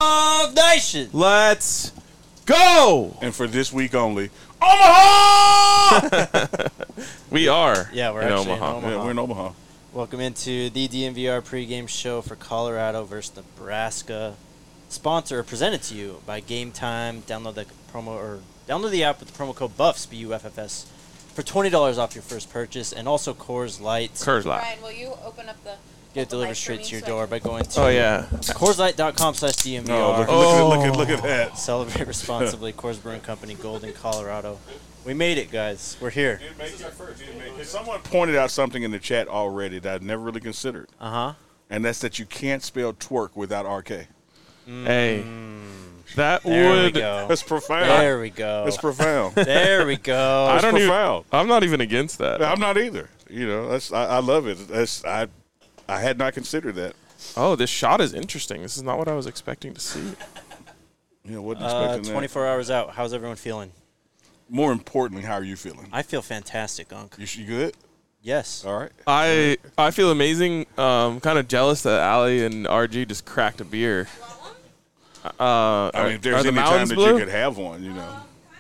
of Nation. Let's go! And for this week only, Omaha! We are. Yeah, we're in actually Omaha. in Omaha. Yeah, we're in Omaha. Welcome into the DMVR pregame show for Colorado versus Nebraska. Presented to you by Game Time. Download the app with the promo code BUFFS, BUFFS, for $20 off your first purchase, and also Coors Light. Brian, will you open up the... Get it delivered straight to your door by going to CoorsLight.com/DMVR. No, look at that. Celebrate responsibly. Coors Brewing Company, Golden, Colorado. We made it, guys. We're here. Someone pointed out something in the chat already that I'd never really considered. Uh-huh. And that's that you can't spell twerk without RK. Hey, that There we would. go. That's profound. There we go. That's profound. There we go. I don't profound. even. I'm not even against that. I'm not either. You know, I love it. I had not considered that. Oh, this shot is interesting. This is not what I was expecting to see. You know, wasn't expecting that. 24 hours out. How's everyone feeling? More importantly, how are you feeling? I feel fantastic, Unc. You good? Yes. All right. I feel amazing. Kind of jealous that Allie and RG just cracked a beer. I mean, if there's any time that you could have one, you know.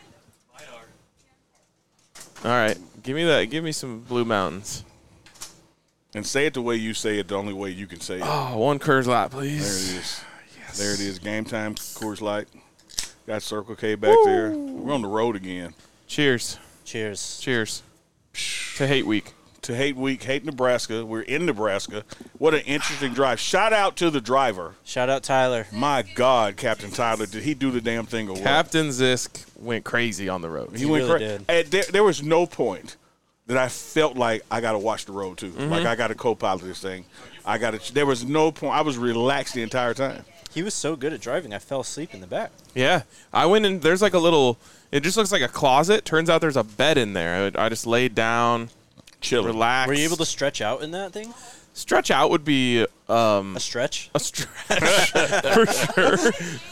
All right, give me that. Give me some Blue Mountains. And say it the way you say it, the only way you can say it. Oh, one Coors Light, please. There it is. Yes. There it is. Game Time, Coors Light. Got Circle K back there. We're on the road again. Cheers. Cheers. Cheers. To Hate Week. To Hate Week, Hate Nebraska. We're in Nebraska. What an interesting drive. Shout out to the driver. Shout out Tyler. My God, Captain Tyler. Did he do the damn thing or what? Captain Zisk went crazy on the road. He went really crazy. There was no point that I felt like I got to watch the road, too. Mm-hmm. Like I got to co-pilot this thing. There was no point. I was relaxed the entire time. He was so good at driving, I fell asleep in the back. Yeah. I went in. There's like a little, it just looks like a closet. Turns out there's a bed in there. I just laid down, chilling, relaxed. Were you able to stretch out in that thing? Stretch out would be a stretch? A stretch, for sure.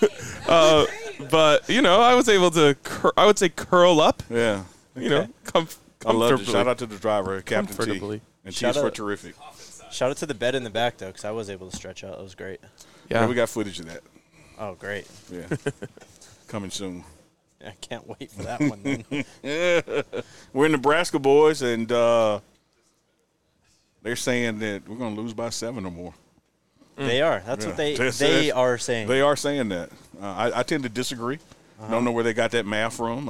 But, you know, I was able to, I would say curl up. Yeah. You know, I love it. Shout out to the driver, Captain Comfortably. T. And T's for terrific. Shout out to the bed in the back, though, because I was able to stretch out. It was great. Yeah. We got footage of that. Oh, great. Yeah. Coming soon. I can't wait for that one, then. Yeah. We're in Nebraska, boys, and they're saying that we're going to lose by 7 or more. They are. That's what they are saying. They are saying that. I tend to disagree. Don't know where they got that math from,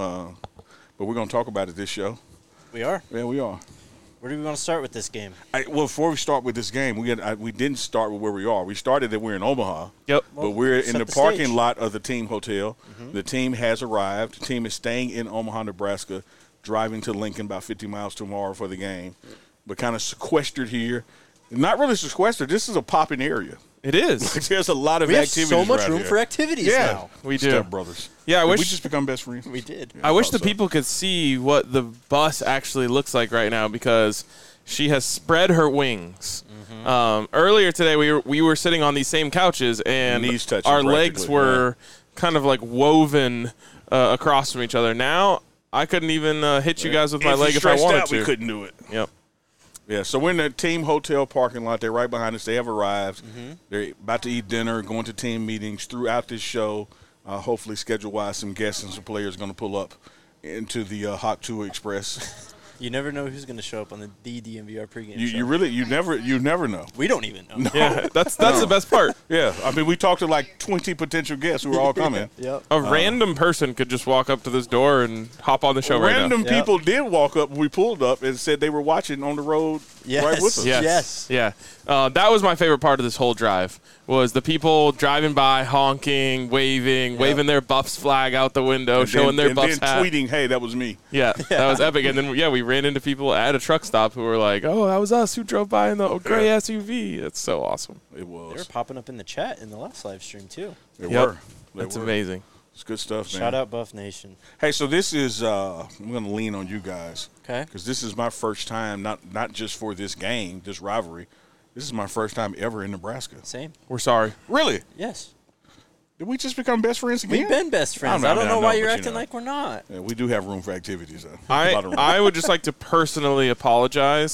but we're going to talk about it this show. We are? Yeah, we are. Where do we want to start with this game? Well, before we start with this game, we didn't start with where we are. We started that we're in Omaha. Yep. But we're in the parking stage. lot of the team hotel. Mm-hmm. The team has arrived. The team is staying in Omaha, Nebraska, driving to Lincoln about 50 miles tomorrow for the game, but kind of sequestered here. Not really sequestered. This is a popping area. It is. There's a lot of We have activities so much around room here. for activities now. We do. Step brothers. Yeah, I Did wish we just become best friends. We did. I wish the so. people could see what the bus actually looks like right now because she has spread her wings. Earlier today, we were sitting on these same couches, and Knees touching our legs practically, were kind of like woven across from each other. Now I couldn't even hit you guys with my leg if I wanted to. We couldn't do it. Yep. Yeah, so we're in the team hotel parking lot. They're right behind us. They have arrived. They're about to eat dinner, going to team meetings throughout this show. Hopefully, schedule-wise, some guests and some players are going to pull up into the Hot Tour Express. You never know who's going to show up on the DMVR pregame show. You never know. We don't even know. Yeah, that's the best part. Yeah, I mean, we talked to like 20 potential guests who are all coming. Yep. A random person could just walk up to this door and hop on the show right now. Random people did walk up when we pulled up and said they were watching on the road right with us. Yes. Yeah. That was my favorite part of this whole drive was the people driving by, honking, waving their Buffs flag out the window, showing their Buffs hat. And then tweeting, hey, that was me. Yeah, that was epic. And then, we ran into people at a truck stop who were like, oh, that was us who drove by in the gray SUV. That's so awesome. It was. They were popping up in the chat in the last live stream, too. They were. That's amazing. It's good stuff, man. Shout out Buff Nation. Hey, so this is I'm going to lean on you guys. Okay. Because this is my first time, not just for this game, this rivalry. This is my first time ever in Nebraska. Same. We're sorry. Really? Yes. Did we just become best friends again? We've been best friends. I don't know why you're acting like we're not. Yeah, we do have room for activities, though. I would just like to personally apologize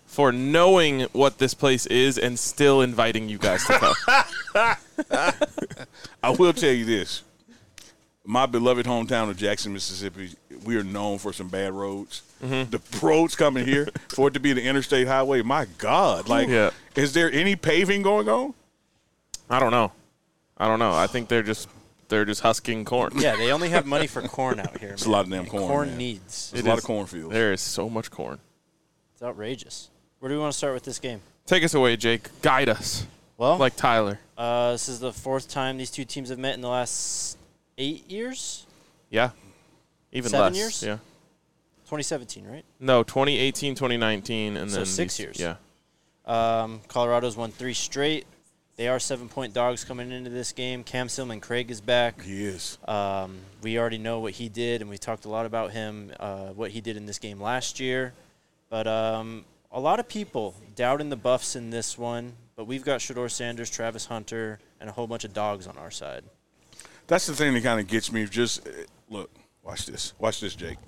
for knowing what this place is and still inviting you guys to come. I will tell you this. My beloved hometown of Jackson, Mississippi, we are known for some bad roads. Mm-hmm. The roads coming here, for it to be the interstate highway, my God. Is there any paving going on? I don't know. I think they're just husking corn. Yeah, they only have money for corn out here. It's a lot of damn corn. Corn man. needs. There's a lot of cornfields. There is so much corn. It's outrageous. Where do we want to start with this game? Take us away, Jake. Guide us. Well, like Tyler. This is the fourth time these two teams have met in the last 8 years? Yeah. Even 7 less. years? Yeah. 2017, right? No, 2018, 2019, and then 6 years. Yeah. Colorado's won 3 straight. They are 7-point dogs coming into this game. Cam Silman-Craig is back. He is. We already know what he did, and we talked a lot about him, what he did in this game last year. But a lot of people doubting the Buffs in this one, but we've got Shedeur Sanders, Travis Hunter, and a whole bunch of dogs on our side. That's the thing that kind of gets me. Just look, watch this. Watch this, Jake.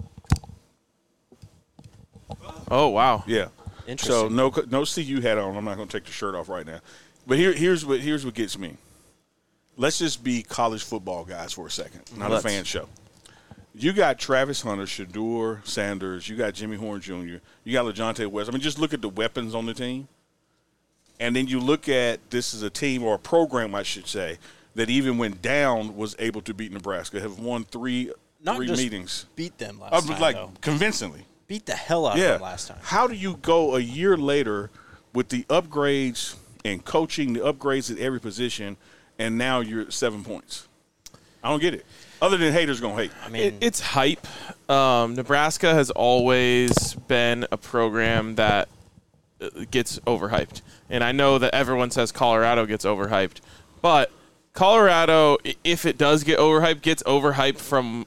Oh, wow. Yeah. Interesting. So no CU hat on. I'm not going to take the shirt off right now. But here's what gets me. Let's just be college football guys for a second, not a fan show. You got Travis Hunter, Shedeur Sanders. You got Jimmy Horn Jr. You got LaJohntay West. I mean, just look at the weapons on the team. And then you look at this is a team or a program, I should say, that even when down was able to beat Nebraska, have won three meetings. Beat them last time, though. Convincingly. Beat the hell out of them last time. How do you go a year later with the upgrades and coaching, the upgrades at every position, and now you're at 7 points? I don't get it. Other than haters going to hate. I mean, it's hype. Nebraska has always been a program that gets overhyped. And I know that everyone says Colorado gets overhyped. But Colorado, if it does get overhyped, gets overhyped from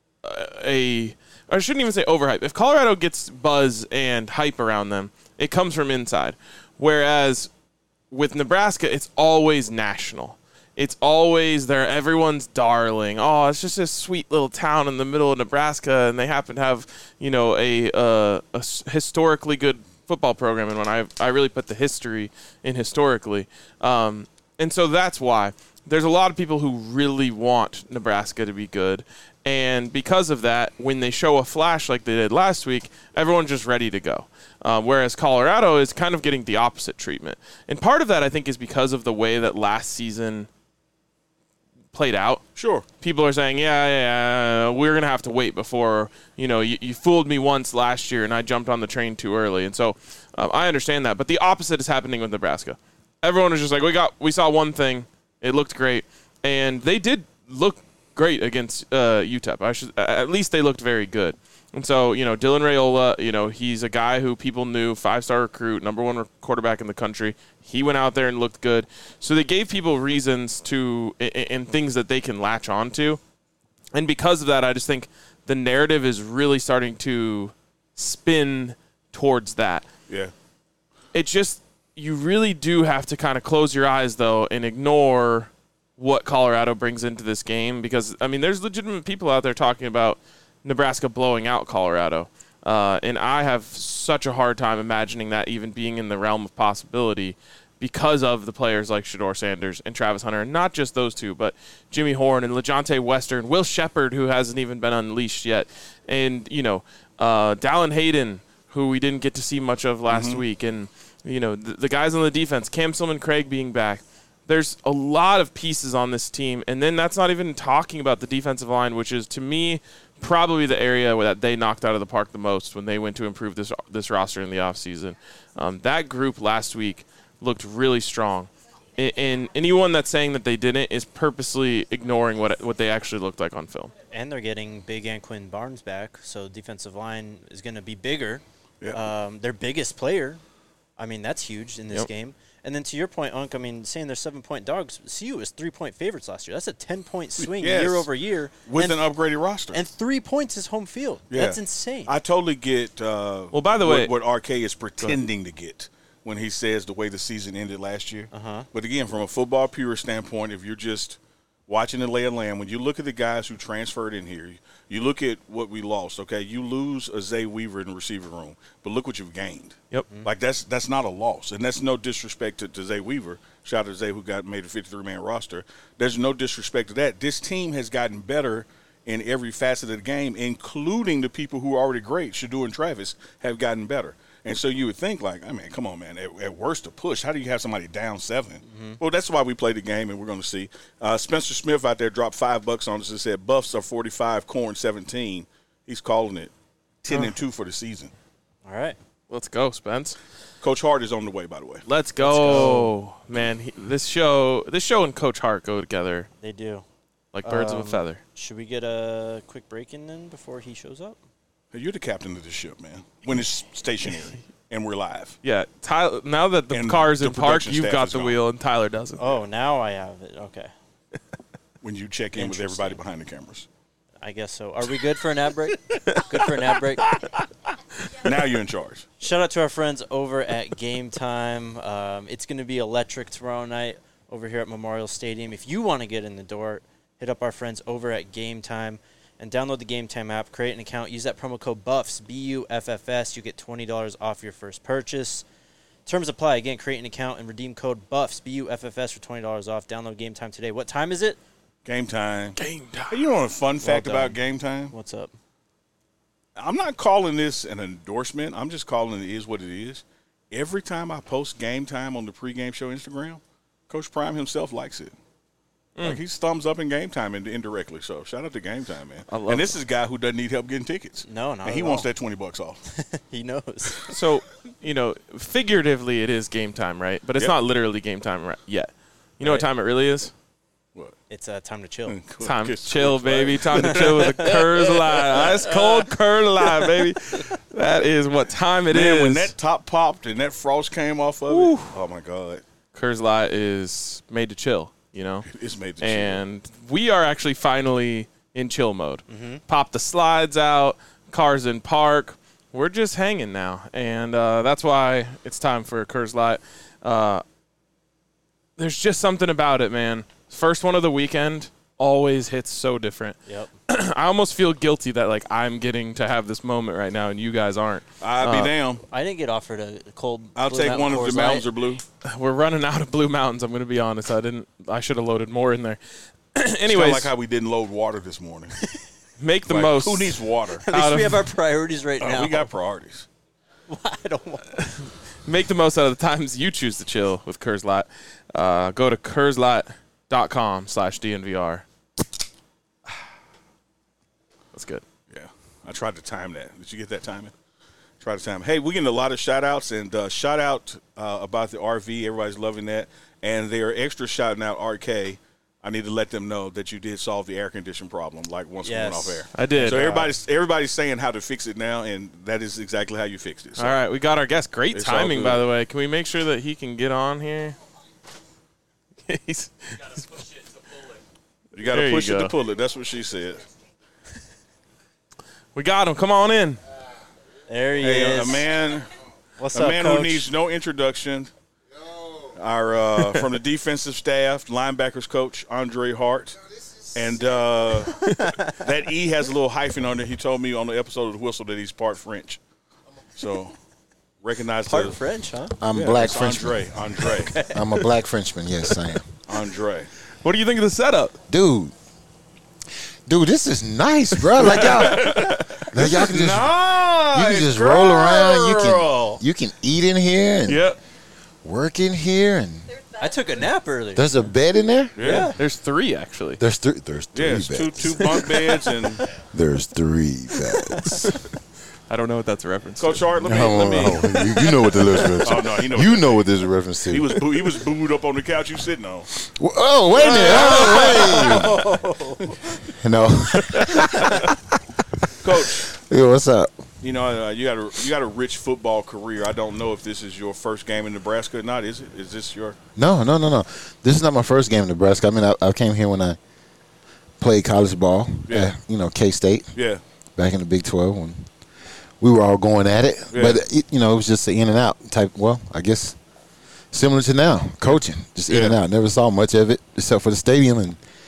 I shouldn't even say overhype. If Colorado gets buzz and hype around them, it comes from inside. Whereas with Nebraska, it's always national. It's always there. Everyone's darling. Oh, it's just a sweet little town in the middle of Nebraska, and they happen to have, a historically good football program. And when I really put the history in historically, and so that's why there's a lot of people who really want Nebraska to be good. And because of that, when they show a flash like they did last week, everyone's just ready to go. Whereas Colorado is kind of getting the opposite treatment. And part of that, I think, is because of the way that last season played out. Sure. People are saying, we're going to have to wait before, you fooled me once last year and I jumped on the train too early. And so I understand that. But the opposite is happening with Nebraska. Everyone is just like, we saw one thing. It looked great. And they did look great against UTEP. At least they looked very good. And so, Dylan Raiola, he's a guy who people knew, 5-star recruit, number 1 quarterback in the country. He went out there and looked good. So they gave people reasons to and things that they can latch on to. And because of that, I just think the narrative is really starting to spin towards that. Yeah. It's just, you really do have to kind of close your eyes, though, and ignore what Colorado brings into this game. Because, there's legitimate people out there talking about Nebraska blowing out Colorado. And I have such a hard time imagining that even being in the realm of possibility because of the players like Shedeur Sanders and Travis Hunter. And not just those two, but Jimmy Horn and LaJohntay Western, Will Shepherd, who hasn't even been unleashed yet. And, Dallin Hayden, who we didn't get to see much of last week. And, the guys on the defense, Cam Silman-Craig being back. There's a lot of pieces on this team. And then that's not even talking about the defensive line, which is, to me, probably the area that they knocked out of the park the most when they went to improve this roster in the offseason. That group last week looked really strong. And anyone that's saying that they didn't is purposely ignoring what they actually looked like on film. And they're getting Big Anquin Barnes back, so defensive line is going to be bigger. Yeah. Their biggest player. That's huge in this game. And then to your point, Unc, saying they're 7-point dogs, CU was 3-point favorites last year. That's a 10-point swing year over year. With an upgraded roster. And 3 points is home field. Yeah. That's insane. I totally get by the way, what RK is pretending to get when he says the way the season ended last year. Uh-huh. But again, from a football pure standpoint, if you're just watching the lay of land, when you look at the guys who transferred in here, you look at what we lost, okay? You lose a Zay Weaver in the receiver room, but look what you've gained. Yep. Like, that's not a loss, and that's no disrespect to Zay Weaver. Shout out to Zay who made a 53-man roster. There's no disrespect to that. This team has gotten better in every facet of the game, including the people who are already great. Shador and Travis have gotten better. And so you would think, like, I mean, come on, man. At worst, a push. How do you have somebody down 7? Well, that's why we play the game, and we're going to see. Spencer Smith out there dropped $5 on us and said Buffs are 45, Corn 17. He's calling it 10-2 for the season. All right. Let's go, Spence. Coach Hart is on the way, by the way. Let's go. Man, this show and Coach Hart go together They do. like birds of a feather. Should we get a quick break in then before he shows up? Hey, you're the captain of this ship, man. When it's stationary and we're live. Yeah, Tyler. Now that the And car's the in park, production you've staff got is the gone. wheel, and Tyler doesn't. Oh, now I have it. Okay. When you check in with everybody behind the cameras. I guess so. Are we good for an ad break? Good for an ad break? Now you're in charge. Shout out to our friends over at Game Time. It's going to be electric tomorrow night over here at Memorial Stadium. If you want to get in the door, hit up our friends over at Game Time and download the Game Time app. Create an account. Use that promo code BUFFS, BUFFS. You get $20 off your first purchase. Terms apply. Again, create an account and redeem code BUFFS, BUFFS for $20 off. Download Game Time today. What time is it? Game time. Game time. Hey, you know a fun fact done. about game time? What's up? I'm not calling this an endorsement. I'm just calling it is what it is. Every time I post game time on the pregame show Instagram, Coach Prime himself likes it. Like he's thumbs up in game time indirectly. So shout out to game time, man. And this is a guy who doesn't need help getting tickets. No, not And he at wants all. that $20 off. He knows. So, figuratively, it is game time, right? But it's Yep. not literally game time yet. You know what time it really is? What? It's time to chill. Time to Kiss chill, Coach baby. Prime. Time to chill with a Curse Live. Ice cold Curse Live, baby. That is what time it is. Man, when that top popped and that frost came off of it, oh my God, Curse Live is made to chill, it's made the And we are actually finally in chill mode. Mm-hmm. Pop the slides out, cars in park. We're just hanging now, and that's why it's time for a Curse Light. There's just something about it, man. First one of the weekend always hits so different. Yep. I almost feel guilty that I'm getting to have this moment right now, and you guys aren't. I'd be damn. I didn't get offered a cold. I'll Blue take Mountain one of Coors the mountains Light. are blue. We're running out of Blue Mountains. I'm going to be honest. I should have loaded more in there. It's Anyways, kinda like how we didn't load water this morning. make the Like, most. Who needs water? At least we have our priorities right now. We got priorities. I don't want. Make the most out of the times you choose to chill with Curse Light. Go to curselight.com/DNVR. That's good. Yeah. I tried to time that. Did you get that timing? Try to time. Hey, we're getting a lot of shout-outs, and shout out about the RV. Everybody's loving that. And they're extra shouting out RK. I need to let them know that you did solve the air condition problem, once we went off air. I did. So everybody's saying how to fix it now, and that is exactly how you fixed it. So All right, we got our guest. Great It's all timing, good. by the way. Can we make sure that he can get on here? you got to There you push it go. to pull it. That's what she said. We got him. Come on in. There he Hey, is. a man What's A up, man Coach? who needs no introduction. Our from the defensive staff, linebackers coach Andre Hart, and that E has a little hyphen on it. He told me on the episode of The Whistle that he's part French, so recognize Part the French, huh? I'm black it's Frenchman. Andre. I'm a black Frenchman. Yes, I am. Andre. What do you think of the setup? Dude, this is nice, bro. Like y'all can just you can just roll around. You can eat in here and Yep. work in here, and I took a nap earlier. there's a bed in there. Yeah. There's 3, actually. There's three Yes, beds. two bunk beds and There's 3 beds. I don't know what that's a reference Coach to. Hart. Let me. You know what the reference. Oh no, he knows. You know what this is a reference to. He was booed up on the couch you sitting on. Oh, wait a minute. Oh, wait. No. Coach, Yo, what's up? you know you got a rich football career. I don't know if this is your first game in Nebraska or not. Is it? Is this your? No. This is not my first game in Nebraska. I mean, I came here when I played college ball Yeah. at, K-State Yeah. back in the Big 12 when we were all going at it. Yeah. But, it was just an in and out type, well, I guess similar to now, coaching, just in and Yeah. out. Never saw much of it except for the stadium and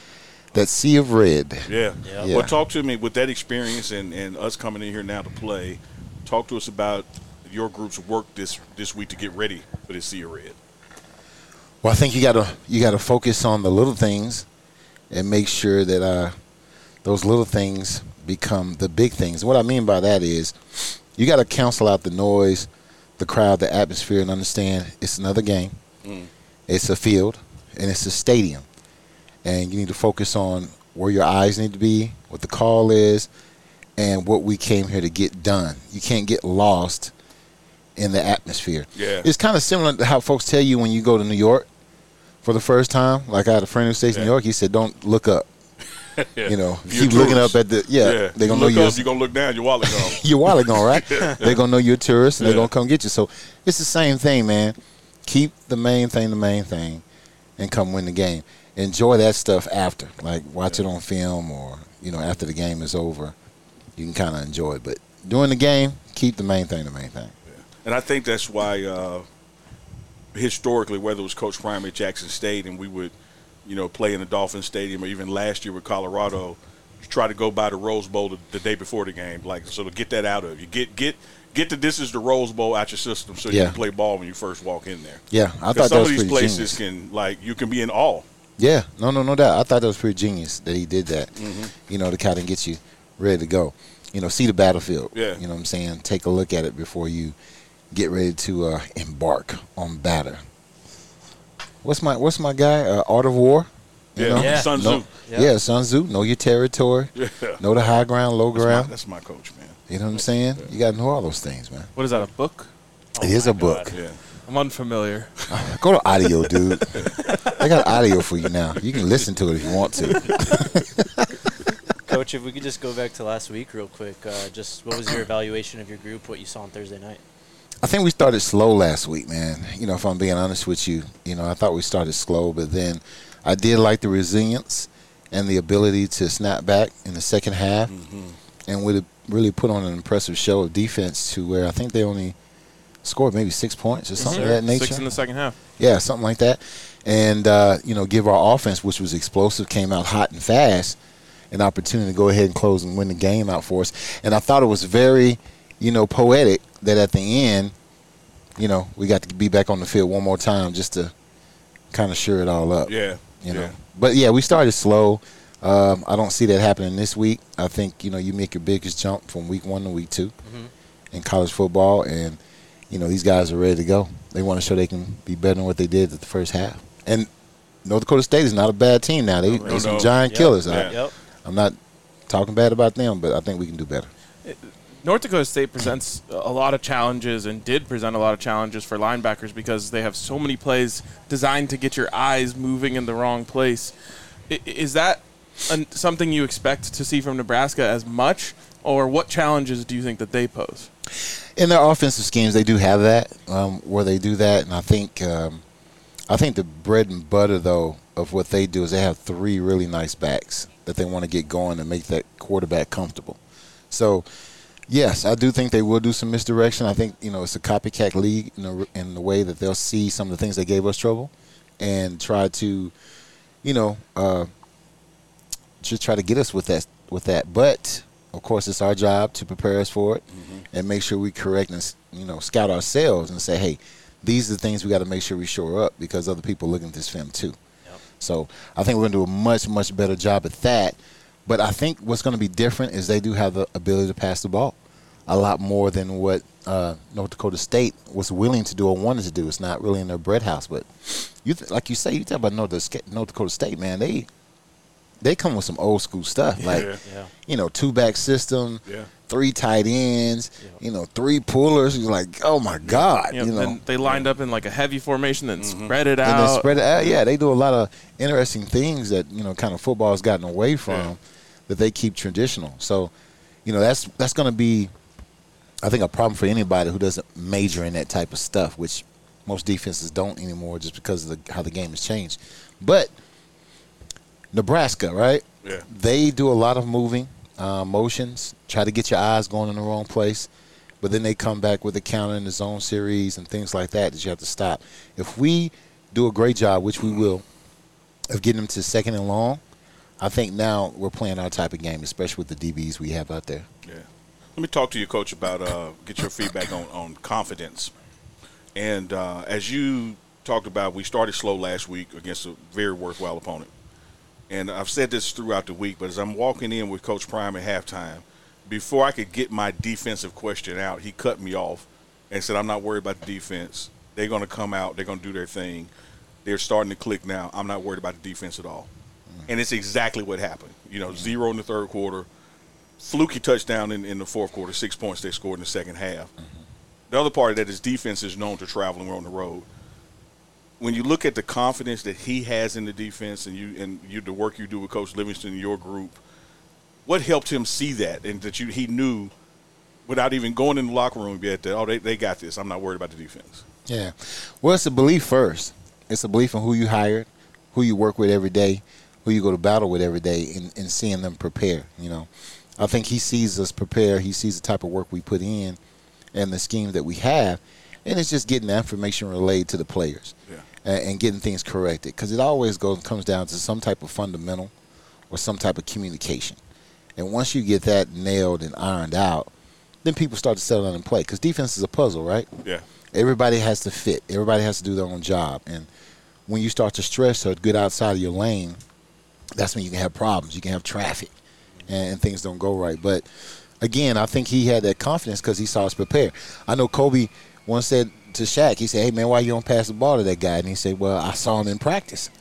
that sea of red. Yeah. Yeah. Yeah. Well, talk to me with that experience and us coming in here now to play. Talk to us about your group's work this week to get ready for this sea of red. Well, I think you gotta focus on the little things and make sure that those little things become the big things. And what I mean by that is you got to cancel out the noise, the crowd, the atmosphere, and understand it's another game. It's a field, and it's a stadium. And you need to focus on where your eyes need to be, what the call is, and what we came here to get done. You can't get lost in the atmosphere. Yeah. It's kind of similar to how folks tell you when you go to New York for the first time. Like I had a friend who stays in New York. He said, don't look up. Yeah. You know, You're keep looking tourist. up at the they're gonna know look you're up, you're gonna look down, your wallet gone. your wallet gone, right? They're gonna know you're a tourist and they're Yeah. gonna come get you. So it's the same thing, man. Keep the main thing, and come win the game. Enjoy that stuff after, like watch it on film or after the game is over, you can kind of enjoy it. But during the game, keep the main thing. And I think that's why historically, whether it was Coach Prime at Jackson State and we would, play in the Dolphin Stadium, or even last year with Colorado, you try to go by the Rose Bowl the day before the game, like so to get that out of you. Get the this is the Rose Bowl out your system so you can play ball when you first walk in there. Yeah, I thought Because that some was of these pretty places genius. you can be in awe. Yeah, no doubt. I thought that was pretty genius that he did that. To kind of get you ready to go. See the battlefield. Yeah. You know what I'm saying? Take a look at it before you get ready to embark on battle. What's my guy? Art of War. You know? Yeah. Sun Tzu. Yeah, Sun Tzu. Know your territory. Yeah. Know the high ground, low ground. That's my coach, man. You know what I'm saying? You got to know all those things, man. What is that, a book? It is a book. Yeah. I'm unfamiliar. Go to audio, dude. I got audio for you now. You can listen to it if you want to. Coach, if we could just go back to last week real quick, just what was your evaluation of your group, what you saw on Thursday night? I think we started slow last week, man. If I'm being honest with you, I thought we started slow, but then I did like the resilience and the ability to snap back in the second half, and we really put on an impressive show of defense to where I think they only scored maybe 6 points or something of that nature. 6 in the second half. Yeah, something like that. And, give our offense, which was explosive, came out hot and fast, an opportunity to go ahead and close and win the game out for us. And I thought it was very, poetic that at the end, we got to be back on the field one more time just to kind of sure it all up. Yeah. But, yeah, we started slow. I don't see that happening this week. I think, you make your biggest jump from week 1 to week 2 in college football, and these guys are ready to go. They want to show they can be better than what they did at the first half. And North Dakota State is not a bad team now. They're some giant killers. Yep. I'm not talking bad about them, but I think we can do better. North Dakota State presents a lot of challenges and did present a lot of challenges for linebackers because they have so many plays designed to get your eyes moving in the wrong place. Is that something you expect to see from Nebraska as much, or what challenges do you think that they pose? In their offensive schemes, they do have that, where they do that, and I think the bread and butter, though, of what they do is they have 3 really nice backs that they want to get going and make that quarterback comfortable. So, yes, I do think they will do some misdirection. I think, it's a copycat league in the way that they'll see some of the things that gave us trouble and try to, just try to get us with that. But, of course, it's our job to prepare us for it and make sure we correct and, scout ourselves and say, hey, these are the things we got to make sure we shore up because other people are looking at this film too. Yep. So I think we're going to do a much, much better job at that. But I think what's going to be different is they do have the ability to pass the ball a lot more than what North Dakota State was willing to do or wanted to do. It's not really in their bread house. But like you say, you talk about North Dakota State, man, they come with some old school stuff. Like, 2-back system, 3 tight ends, 3 pullers. You're like, oh, my God. And they lined up in like a heavy formation, then spread it out. And then spread it out. Yeah, they do a lot of interesting things that, kind of football has gotten away from that they keep traditional. So, that's going to be, I think, a problem for anybody who doesn't major in that type of stuff, which most defenses don't anymore just because of how the game has changed. But Nebraska, right? Yeah. They do a lot of moving, motions, try to get your eyes going in the wrong place, but then they come back with a counter in the zone series and things like that you have to stop. If we do a great job, which we will, of getting them to second and long, I think now we're playing our type of game, especially with the DBs we have out there. Yeah. Let me talk to you, Coach, about get your feedback on confidence. And as you talked about, we started slow last week against a very worthwhile opponent. And I've said this throughout the week, but as I'm walking in with Coach Prime at halftime, before I could get my defensive question out, he cut me off and said, I'm not worried about the defense. They're going to come out. They're going to do their thing. They're starting to click now. I'm not worried about the defense at all. And it's exactly what happened. 0 in the third quarter, fluky touchdown in the fourth quarter, 6 points they scored in the second half. The other part of that is defense is known to traveling on the road. When you look at the confidence that he has in the defense and the work you do with Coach Livingston and your group, what helped him see that and that he knew without even going in the locker room yet that, they got this. I'm not worried about the defense. Yeah. Well, it's a belief first. It's a belief in who you hired, who you work with every day, who you go to battle with every day, and seeing them prepare. I think he sees us prepare. He sees the type of work we put in and the scheme that we have, and it's just getting the information relayed to the players. Yeah. And getting things corrected, because it always comes down to some type of fundamental or some type of communication. And once you get that nailed and ironed out, then people start to settle down and play, because defense is a puzzle, right? Yeah. Everybody has to fit. Everybody has to do their own job. And when you start to stress or get outside of your lane, that's when you can have problems. You can have traffic, and things don't go right. But, again, I think he had that confidence because he saw us prepare. I know Kobe once said to Shaq, he said, hey, man, why you don't pass the ball to that guy? And he said, well, I saw him in practice.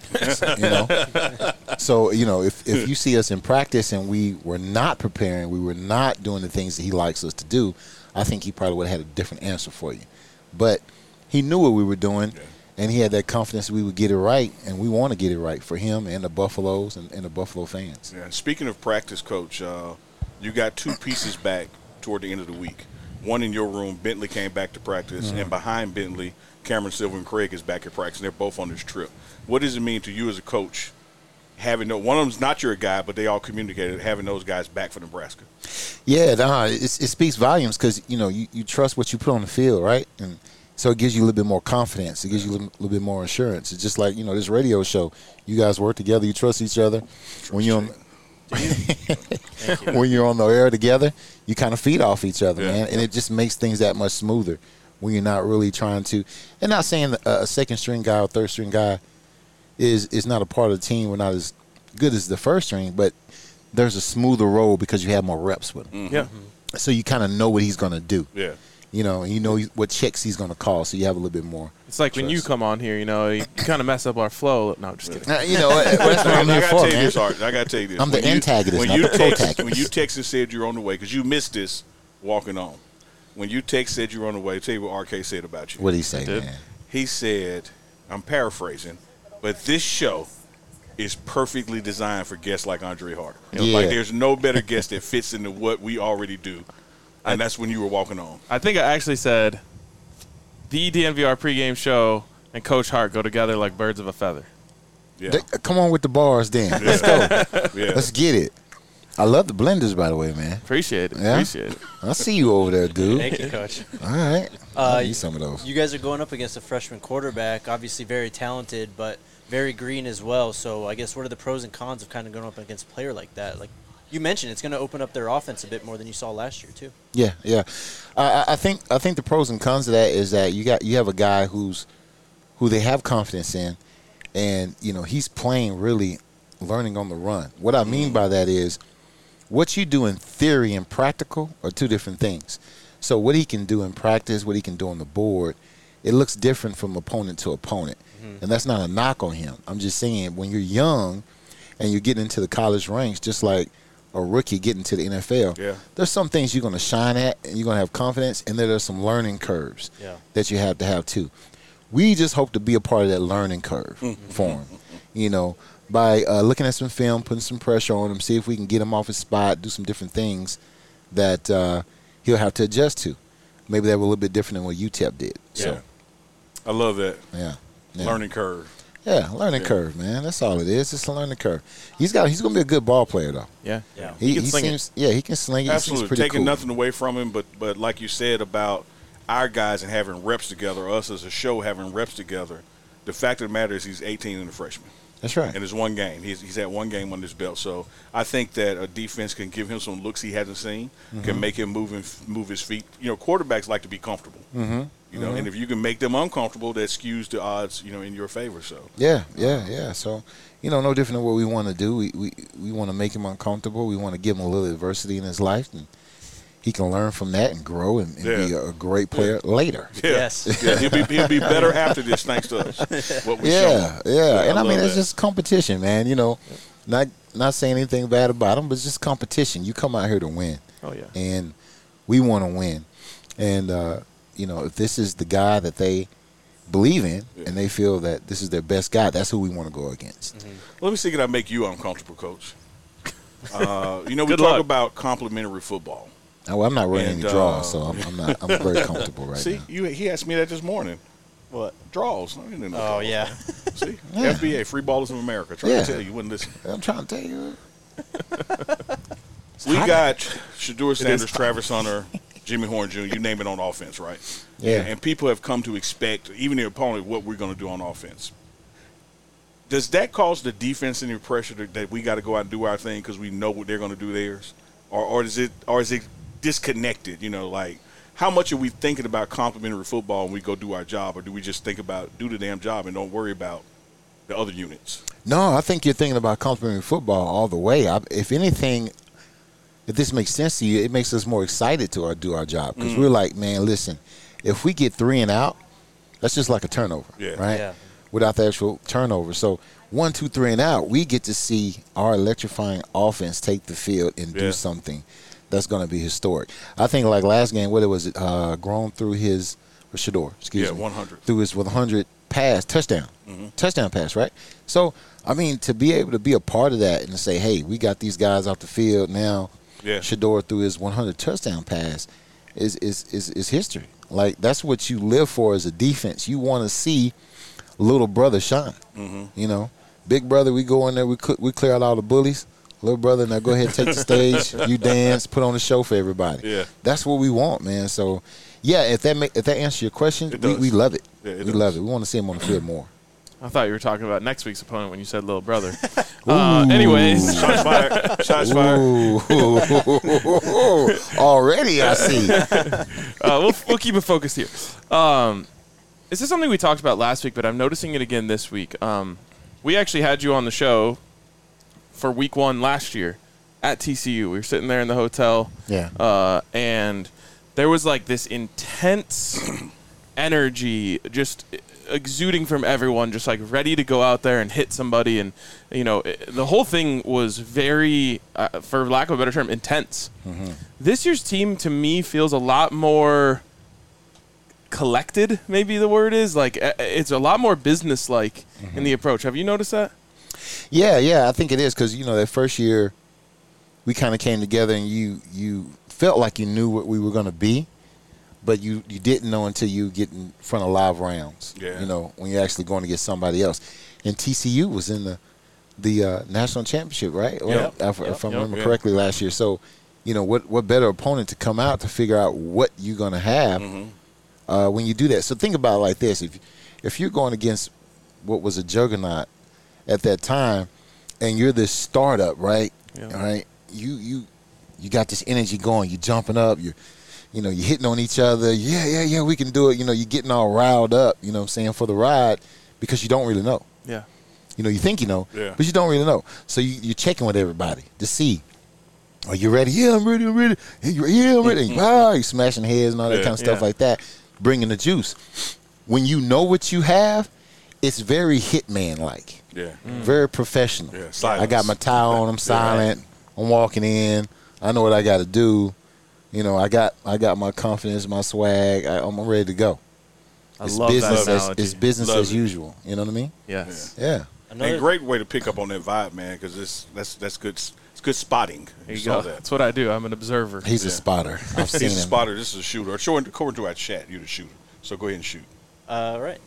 So, if you see us in practice and we were not preparing, we were not doing the things that he likes us to do, I think he probably would have had a different answer for you. But he knew what we were doing, and he had that confidence we would get it right, and we want to get it right for him and the Buffaloes and the Buffalo fans. Yeah. Speaking of practice, Coach, you got 2 pieces back toward the end of the week. One in your room, Bentley came back to practice, and behind Bentley, Cameron Silver and Craig is back at practice, and they're both on this trip. What does it mean to you as a coach, having one of them's not your guy, but they all communicated, having those guys back for Nebraska? Yeah, it speaks volumes because, you trust what you put on the field, right? And so it gives you a little bit more confidence. It gives you a little bit more assurance. It's just like, this radio show. You guys work together. You trust each other. When you're on the air together, you kind of feed off each other, man. And it just makes things that much smoother when you're not really trying to. And not saying a second-string guy or third-string guy is not a part of the team. We're not as good as the first string, but there's a smoother roll because you have more reps with him. Yeah. So you kind of know what he's going to do. Yeah. And you know what checks he's going to call, so you have a little bit more. It's like when you come on here, you kind of mess up our flow. No, I'm just kidding. That's what I'm here for, man. I got to tell you this. I'm the antagonist, not when the protagonist. When you text and said you're on the way, because you missed this walking on. When you text said you're on the way, tell you what RK said about you. What did he say, man? He said, I'm paraphrasing, but this show is perfectly designed for guests like Andre Harder. Like there's no better guest that fits into what we already do. And that's when you were walking on. I think I actually said the DNVR pregame show and Coach Hart go together like birds of a feather. Yeah. Come on with the bars, then. Let's go. Let's get it. I love the blenders, by the way, man. Appreciate it. Yeah? Appreciate it. I see you over there, dude. Thank you, Coach. All right. I need some of those. You guys are going up against a freshman quarterback, obviously very talented, but very green as well. So I guess what are the pros and cons of kind of going up against a player like that? Like you mentioned, it's going to open up their offense a bit more than you saw last year, too. Yeah. I think the pros and cons of that is that you have a guy who they have confidence in, and he's playing really learning on the run. What I mean by that is what you do in theory and practical are two different things. So what he can do in practice, what he can do on the board, it looks different from opponent to opponent. And that's not a knock on him. I'm just saying when you're young and you're getting into the college ranks, just like a rookie getting to the NFL, there's some things you're going to shine at and you're going to have confidence, and there's some learning curves that you have to have too. We just hope to be a part of that learning curve for him, by looking at some film, putting some pressure on him, see if we can get him off his spot, do some different things that he'll have to adjust to. Maybe that was a little bit different than what UTEP did. So, I love that. Yeah. Learning curve. Yeah, learning curve, man. That's all it is. It's a learning curve. He's going to be a good ball player, though. Yeah. He can sling it. Yeah, he can sling it. Absolutely. Taking nothing away from him, but like you said about our guys and having reps together, us as a show having reps together, the fact of the matter is he's 18 and a freshman. That's right. And it's one game. He's had one game on his belt. So I think that a defense can give him some looks he hasn't seen, can make him move his feet. Quarterbacks like to be comfortable. And if you can make them uncomfortable, that skews the odds, in your favor. So Yeah. So, no different than what we want to do. We want to make him uncomfortable. We want to give him a little adversity in his life, and he can learn from that and grow and be a great player later. Yeah. Yes. Yeah, he'll be better after this, thanks to us. What we show. And I mean, it's that. just competition, man. Not saying anything bad about him, but it's just competition. You come out here to win. Oh, yeah. And we want to win. And, if this is the guy that they believe in and they feel that this is their best guy, that's who we want to go against. Let me see, can I make you uncomfortable, Coach? We Good talk luck. about complimentary football. Oh, I'm not running And, any draws, so I'm very comfortable right See, now. he asked me that this morning. What? Draws. I didn't know Oh, draws, yeah. man. See? Yeah. FBA, Free Ballers of America. Trying Yeah. to tell you, wouldn't listen. I'm trying to tell you. We got Shedeur Sanders, Travis Hunter, Jimmy Horn Jr., you name it, on offense, right? Yeah. And people have come to expect, even the opponent, what we're going to do on offense. Does that cause the defense any pressure that we got to go out and do our thing because we know what they're going to do theirs? Or is it disconnected, how much are we thinking about complimentary football when we go do our job, or do we just think about do the damn job and don't worry about the other units? No, I think you're thinking about complimentary football all the way. If anything, if this makes sense to you, it makes us more excited to do our job because we're like, man, listen, if we get 3 and out, that's just like a turnover, right? Yeah. Without the actual turnover. So 1, 2, 3 and out, we get to see our electrifying offense take the field and do something that's going to be historic. I think like last game, what it was, Grown through his Shedeur, excuse me, 100 through his 100 pass touchdown pass, right? So I mean, to be able to be a part of that and to say, hey, we got these guys off the field now. Yeah. Shedeur through his 100 touchdown pass is history. Like that's what you live for as a defense. You want to see little brother shine. Big brother, we go in there, we clear out all the bullies. Little brother, now go ahead, take the stage. You dance, put on a show for everybody. Yeah. That's what we want, man. So, yeah, if that answers your question, we love it. Yeah, it we does. love it. We want to see him on the field more. I thought you were talking about next week's opponent when you said little brother. Anyways, Shots fired. Shots fired. Ooh. Already, I see. we'll keep it focused here. This is something we talked about last week, but I'm noticing it again this week. We actually had you on the show for week 1 last year at TCU. We were sitting there in the hotel. Yeah. And there was like this intense energy just exuding from everyone, just like ready to go out there and hit somebody. And, the whole thing was very, for lack of a better term, intense. This year's team, to me, feels a lot more collected, maybe the word is. Like, it's a lot more business-like in the approach. Have you noticed that? Yeah, I think it is because, that first year we kind of came together and you felt like you knew what we were going to be, but you didn't know until you get in front of live rounds, when you're actually going to get somebody else. And TCU was in the national championship, right? Yep. If I remember correctly last year. So, what better opponent to come out to figure out what you're going to have when you do that. So think about it like this. If you're going against what was a juggernaut at that time, and you're this startup, right? Yeah. All right. You got this energy going. You're jumping up. You're hitting on each other. Yeah, we can do it. You're getting all riled up. For the ride because you don't really know. Yeah. You think you know, but you don't really know. So you're checking with everybody to see. Are you ready? Yeah, I'm ready. Yeah, I'm ready. You're smashing heads and all that kind of stuff like that. Bringing the juice. When you know what you have, it's very Hitman-like. Yeah. Very professional. Yeah, silence. I got my tie on. I'm silent. I'm walking in. I know what I got to do. I got my confidence, my swag. I'm ready to go. I love that analogy. It's business Love as it. usual. You know what I mean? Yes. Yeah. And great way to pick up on that vibe, man, because that's good. It's good spotting. There you saw go. that. That's what I do. I'm an observer. He's a spotter. I've seen He's a him. spotter. This is a shooter. According to our chat, you're the shooter. So go ahead and shoot. Right.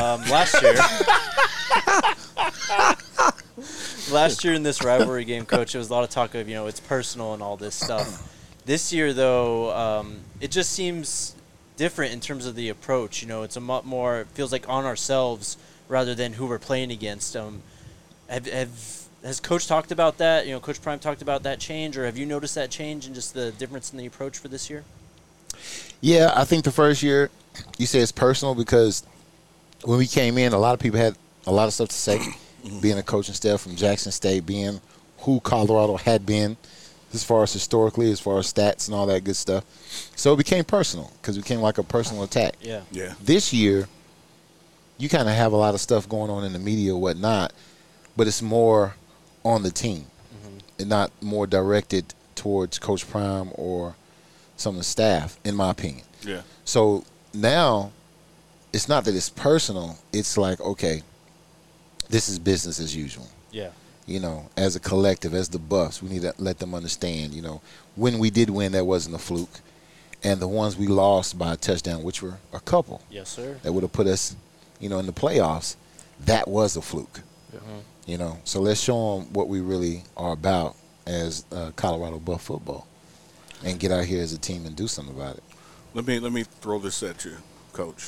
Last year in this rivalry game, Coach, there was a lot of talk of, it's personal and all this stuff. This year, though, it just seems different in terms of the approach. It's a lot more, it feels like on ourselves rather than who we're playing against. Has Coach talked about that? You know, Coach Prime talked about that change, or have you noticed that change and just the difference in the approach for this year? Yeah, I think the first year, you say it's personal because when we came in, a lot of people had a lot of stuff to say. Being a coaching staff from Jackson State, being who Colorado had been as far as historically, as far as stats and all that good stuff. So it became personal because it became like a personal attack. Yeah. This year, you kind of have a lot of stuff going on in the media or whatnot, but it's more on the team and not more directed towards Coach Prime or some of the staff, in my opinion. Yeah. So now it's not that it's personal. It's like, okay, this is business as usual. Yeah. You know, as a collective, as the Buffs, we need to let them understand, you know, when we did win, that wasn't a fluke. And the ones we lost by a touchdown, which were a couple, Yes, sir. that would have put us, you know, in the playoffs, that was a fluke. You know, so let's show them what we really are about as Colorado Buff football and get out here as a team and do something about it. Let me throw this at you, Coach.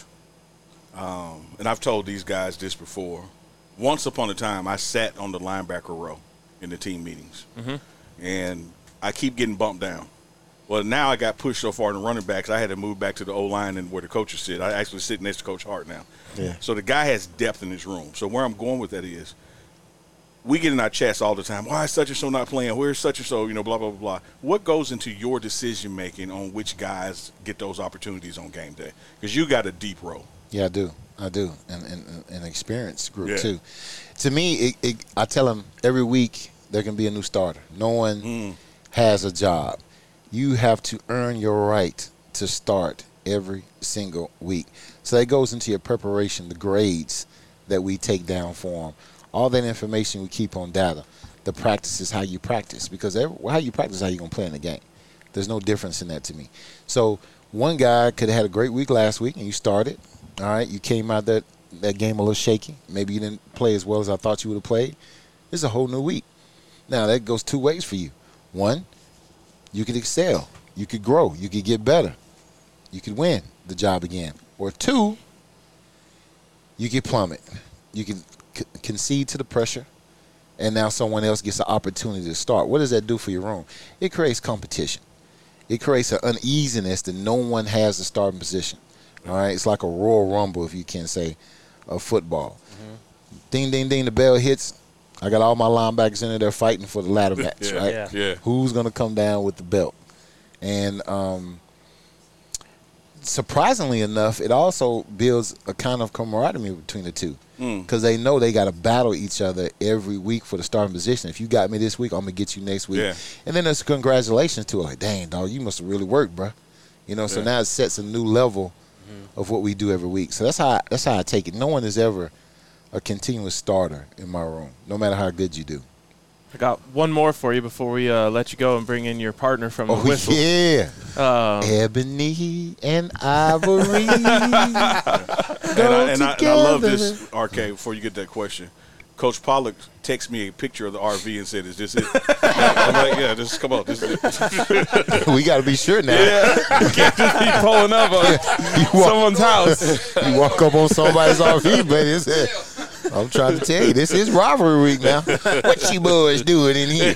And I've told these guys this before. Once upon a time, I sat on the linebacker row in the team meetings, and I keep getting bumped down. Well, now I got pushed so far in the running backs, I had to move back to the O-line and where the coaches sit. I actually sit next to Coach Hart now. Yeah. So the guy has depth in his room. So where I'm going with that is, we get in our chats all the time. Why is such-and-so not playing? Where's such-and-so? You know, blah, blah, blah, blah. What goes into your decision-making on which guys get those opportunities on game day? Because you got a deep row. Yeah, I do, and an experienced group Yeah. too. To me, I tell them every week there can be a new starter. No one has a job. You have to earn your right to start every single week. So that goes into your preparation, the grades that we take down for them. All that information we keep on data. The practice is how you practice, because how you practice is how you're going to play in the game. There's no difference in that to me. So one guy could have had a great week last week, and you started. All right, you came out that game a little shaky. Maybe you didn't play as well as I thought you would have played. It's a whole new week. Now, that goes two ways for you. One, you could excel. You could grow. You could get better. You could win the job again. Or two, you could plummet. You could concede to the pressure, and now someone else gets an opportunity to start. What does that do for your room? It creates competition. It creates an uneasiness that no one has the starting position. All right, it's like a Royal Rumble, if you can say, of football. Ding, ding, ding, the bell hits. I got all my linebackers in there fighting for the ladder match, right? Yeah. Who's going to come down with the belt? And surprisingly enough, it also builds a kind of camaraderie between the two, because they know they got to battle each other every week for the starting position. If you got me this week, I'm going to get you next week. Yeah. And then there's congratulations to it. Like, dang, dog, you must have really worked, bro. You know, so now it sets a new level of what we do every week. So that's how I take it. No one is ever a continuous starter in my room, no matter how good you do. I got one more for you before we let you go and bring in your partner from the whistle. Yeah. Ebony and Ivory. And I love this, RK, before you get that question. Coach Pollock texted me a picture of the RV and said, "Is this it?" I'm like, "Yeah, come on, this is it." We got to be sure now. You can't just be pulling up on someone's house. You walk up on somebody's RV, buddy. I'm trying to tell you, this is rivalry week now. What you boys doing in here?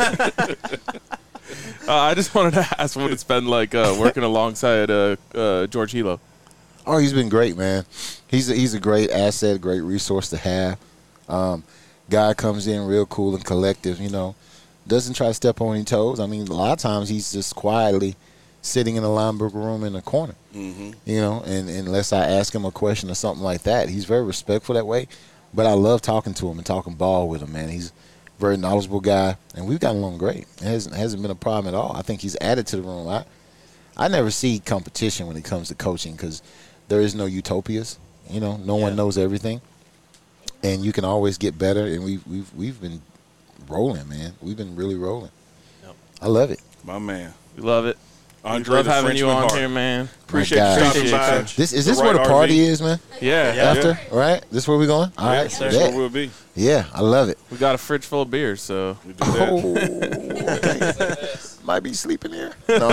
I just wanted to ask what it's been like working alongside George Hilo. Oh, he's been great, man. He's a great asset, great resource to have. Guy comes in real cool and collective, you know. Doesn't try to step on any toes. I mean, a lot of times he's just quietly sitting in the linebacker room in the corner, you know, and unless I ask him a question or something like that. He's very respectful that way, but I love talking to him and talking ball with him, man. He's a very knowledgeable guy, and we've gotten along great. It hasn't been a problem at all. I think he's added to the room. I never see competition when it comes to coaching because there is no utopias. You know, no one knows everything, and you can always get better. And we've been rolling, man. We've been really rolling. Yep. I love it. My man. We love it. Andre, love the having you Frenchman on Hart. here, man. Appreciate you stopping by. Is this where the party is, man? Yeah. After, right? This where we going? All right. That's where we'll be. Yeah, I love it. We got a fridge full of beers, so. We do that. Oh, okay. Might be sleeping here. No.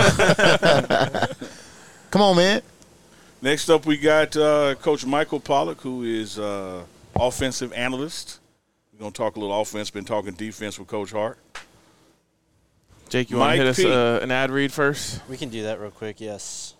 Come on, man. Next up, we got Coach Michael Pollock, who is offensive analyst We're going to talk a little offense. Been talking defense with Coach Hart. Jake, you want to hit us P. an ad read first? We can do that real quick, yes.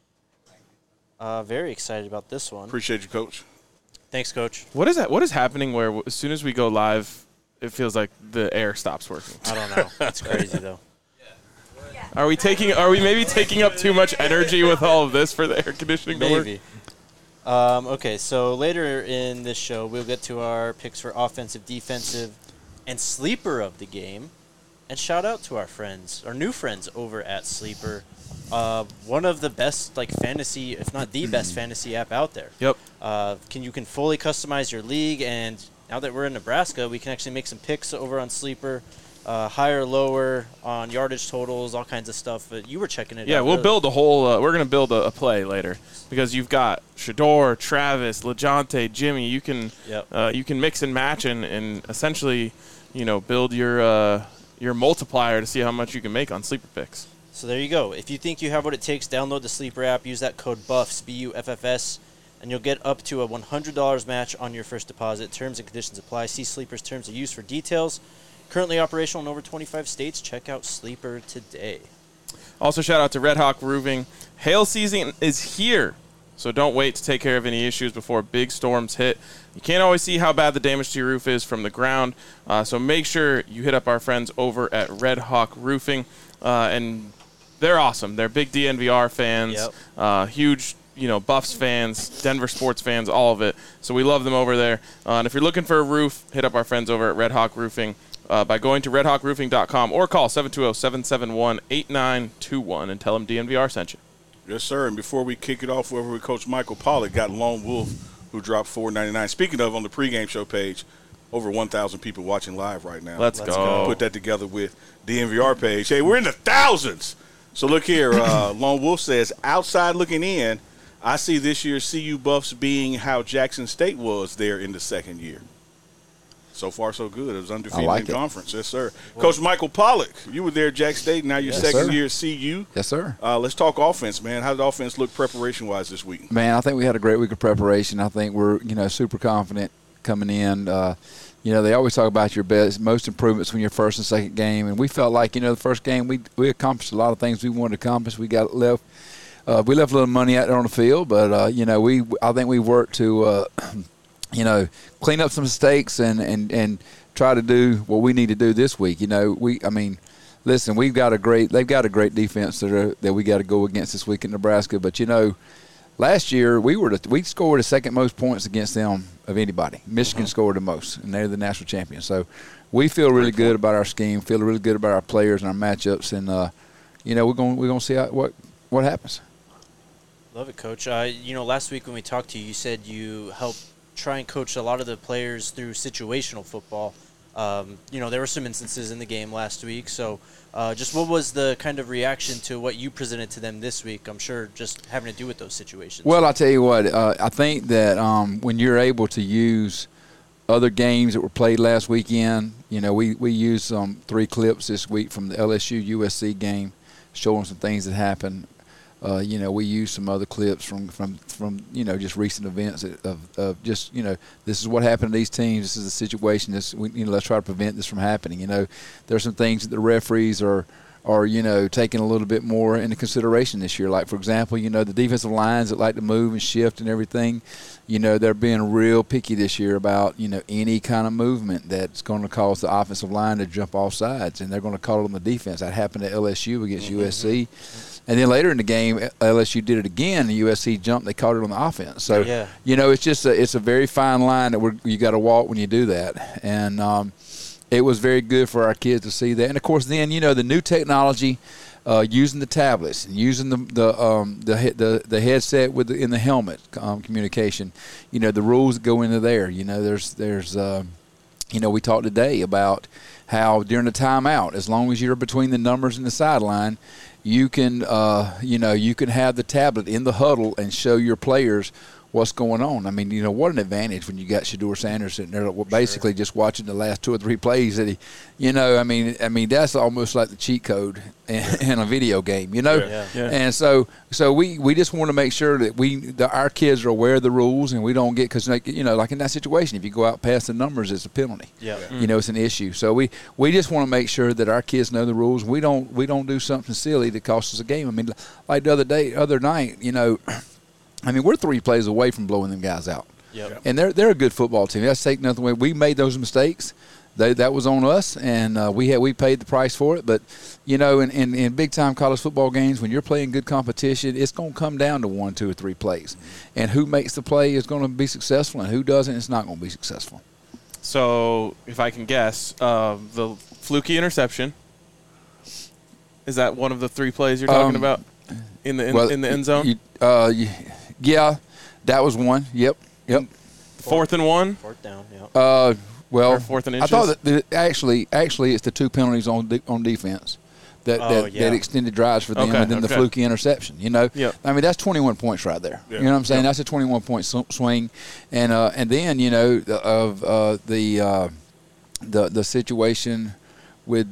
Very excited about this one. Appreciate you, Coach. Thanks, Coach. What is that? What is happening where as soon as we go live, it feels like the air stops working? I don't know. It's crazy, though. Are we maybe taking up too much energy with all of this for the air conditioning to work? Maybe. Okay, so later in this show, we'll get to our picks for offensive, defensive, and sleeper of the game. And shout out to our friends, our new friends over at Sleeper. One of the best, fantasy, if not the best fantasy app out there. Yep. You can fully customize your league, and now that we're in Nebraska, we can actually make some picks over on Sleeper. Higher, lower on yardage totals, all kinds of stuff. But you were checking it out. Yeah, we'll build a whole we're going to build a play later because you've got Shador, Travis, LeJounte, Jimmy. You can you can mix and match and essentially, build your multiplier to see how much you can make on Sleeper picks. So there you go. If you think you have what it takes, download the Sleeper app, use that code BUFFS, BUFFS, and you'll get up to a $100 match on your first deposit. Terms and conditions apply. See Sleeper's terms of use for details. Currently operational in over 25 states. Check out Sleeper today. Also, shout out to Red Hawk Roofing. Hail season is here, so don't wait to take care of any issues before big storms hit. You can't always see how bad the damage to your roof is from the ground, so make sure you hit up our friends over at Red Hawk Roofing. And they're awesome. They're big DNVR fans, huge Buffs fans, Denver sports fans, all of it. So we love them over there. And if you're looking for a roof, hit up our friends over at Red Hawk Roofing. By going to redhawkroofing.com or call 720-771-8921 and tell them DNVR sent you. Yes, sir. And before we kick it off over with Coach Michael Pollack, got Lone Wolf, who dropped $4.99. Speaking of, on the pregame show page, over 1,000 people watching live right now. Let's go. Put that together with DNVR page. Hey, we're in the thousands. So look here. Lone Wolf says, outside looking in, I see this year's CU Buffs being how Jackson State was there in the second year. So far, so good. It was undefeated in conference. Yes, sir. Well, Coach Michael Pollack, you were there at Jack State. Now your second year at CU. Yes, sir. Let's talk offense, man. How did offense look preparation-wise this week? Man, I think we had a great week of preparation. I think we're, super confident coming in. They always talk about your most improvements when your first and second game. And we felt like, the first game we accomplished a lot of things we wanted to accomplish. We left a little money out there on the field, but, I think we worked to clean up some mistakes and try to do what we need to do this week. Listen, they've got a great defense that we got to go against this week in Nebraska. But last year we scored the second most points against them of anybody. Michigan scored the most, and they're the national champion. So we feel really good about our scheme, feel really good about our players and our matchups, and we're going to see what happens. Love it, Coach. Last week when we talked to you, you said you helped try and coach a lot of the players through situational football. There were some instances in the game last week. So just what was the kind of reaction to what you presented to them this week? I'm sure just having to do with those situations. Well, I'll tell you what. I think that when you're able to use other games that were played last weekend, we used 3 clips this week from the LSU-USC game showing some things that happened. We use some other clips from just recent events of just this is what happened to these teams. This is the situation. Let's try to prevent this from happening. There's some things that the referees are taking a little bit more into consideration this year. Like for example, the defensive lines that like to move and shift and everything. They're being real picky this year about any kind of movement that's going to cause the offensive line to jump off sides, and they're going to call it on the defense. That happened at LSU against USC. And then later in the game, LSU did it again. The USC jumped. They caught it on the offense. So, it's just it's a very fine line that you got to walk when you do that. And it was very good for our kids to see that. And of course, then the new technology, using the tablets and using the headset in the helmet communication. The rules that go into there. There's we talked today about how during the timeout, as long as you're between the numbers and the sideline, you can have the tablet in the huddle and show your players what's going on. I mean, what an advantage when you got Shedeur Sanders sitting there basically just watching the last 2 or 3 plays that he, I mean that's almost like the cheat code in a video game, Yeah. And so we just want to make sure that our kids are aware of the rules and we don't get, because like in that situation, if you go out past the numbers, it's a penalty. Yeah. It's an issue. So we just want to make sure that our kids know the rules. We don't do something silly that costs us a game. I mean, like the other night, I mean, we're 3 plays away from blowing them guys out. Yep. And they're a good football team. That's taking nothing away. We made those mistakes. That was on us, and we paid the price for it. But, in big-time college football games, when you're playing good competition, it's going to come down to 1, 2, or 3 plays. And who makes the play is going to be successful, and who doesn't, it's not going to be successful. So, if I can guess, the fluky interception, is that one of the 3 plays you're talking about in the end zone? Yeah, that was one. Yep. 4th and 1? 4th down, yeah. Or Well, 4th and I inches? thought that actually it's the 2 penalties on defense that extended drives for them, and then the fluky interception. Yep. I mean, that's 21 points right there. Yeah. You know what I'm saying? That's a 21-point swing, and then the situation with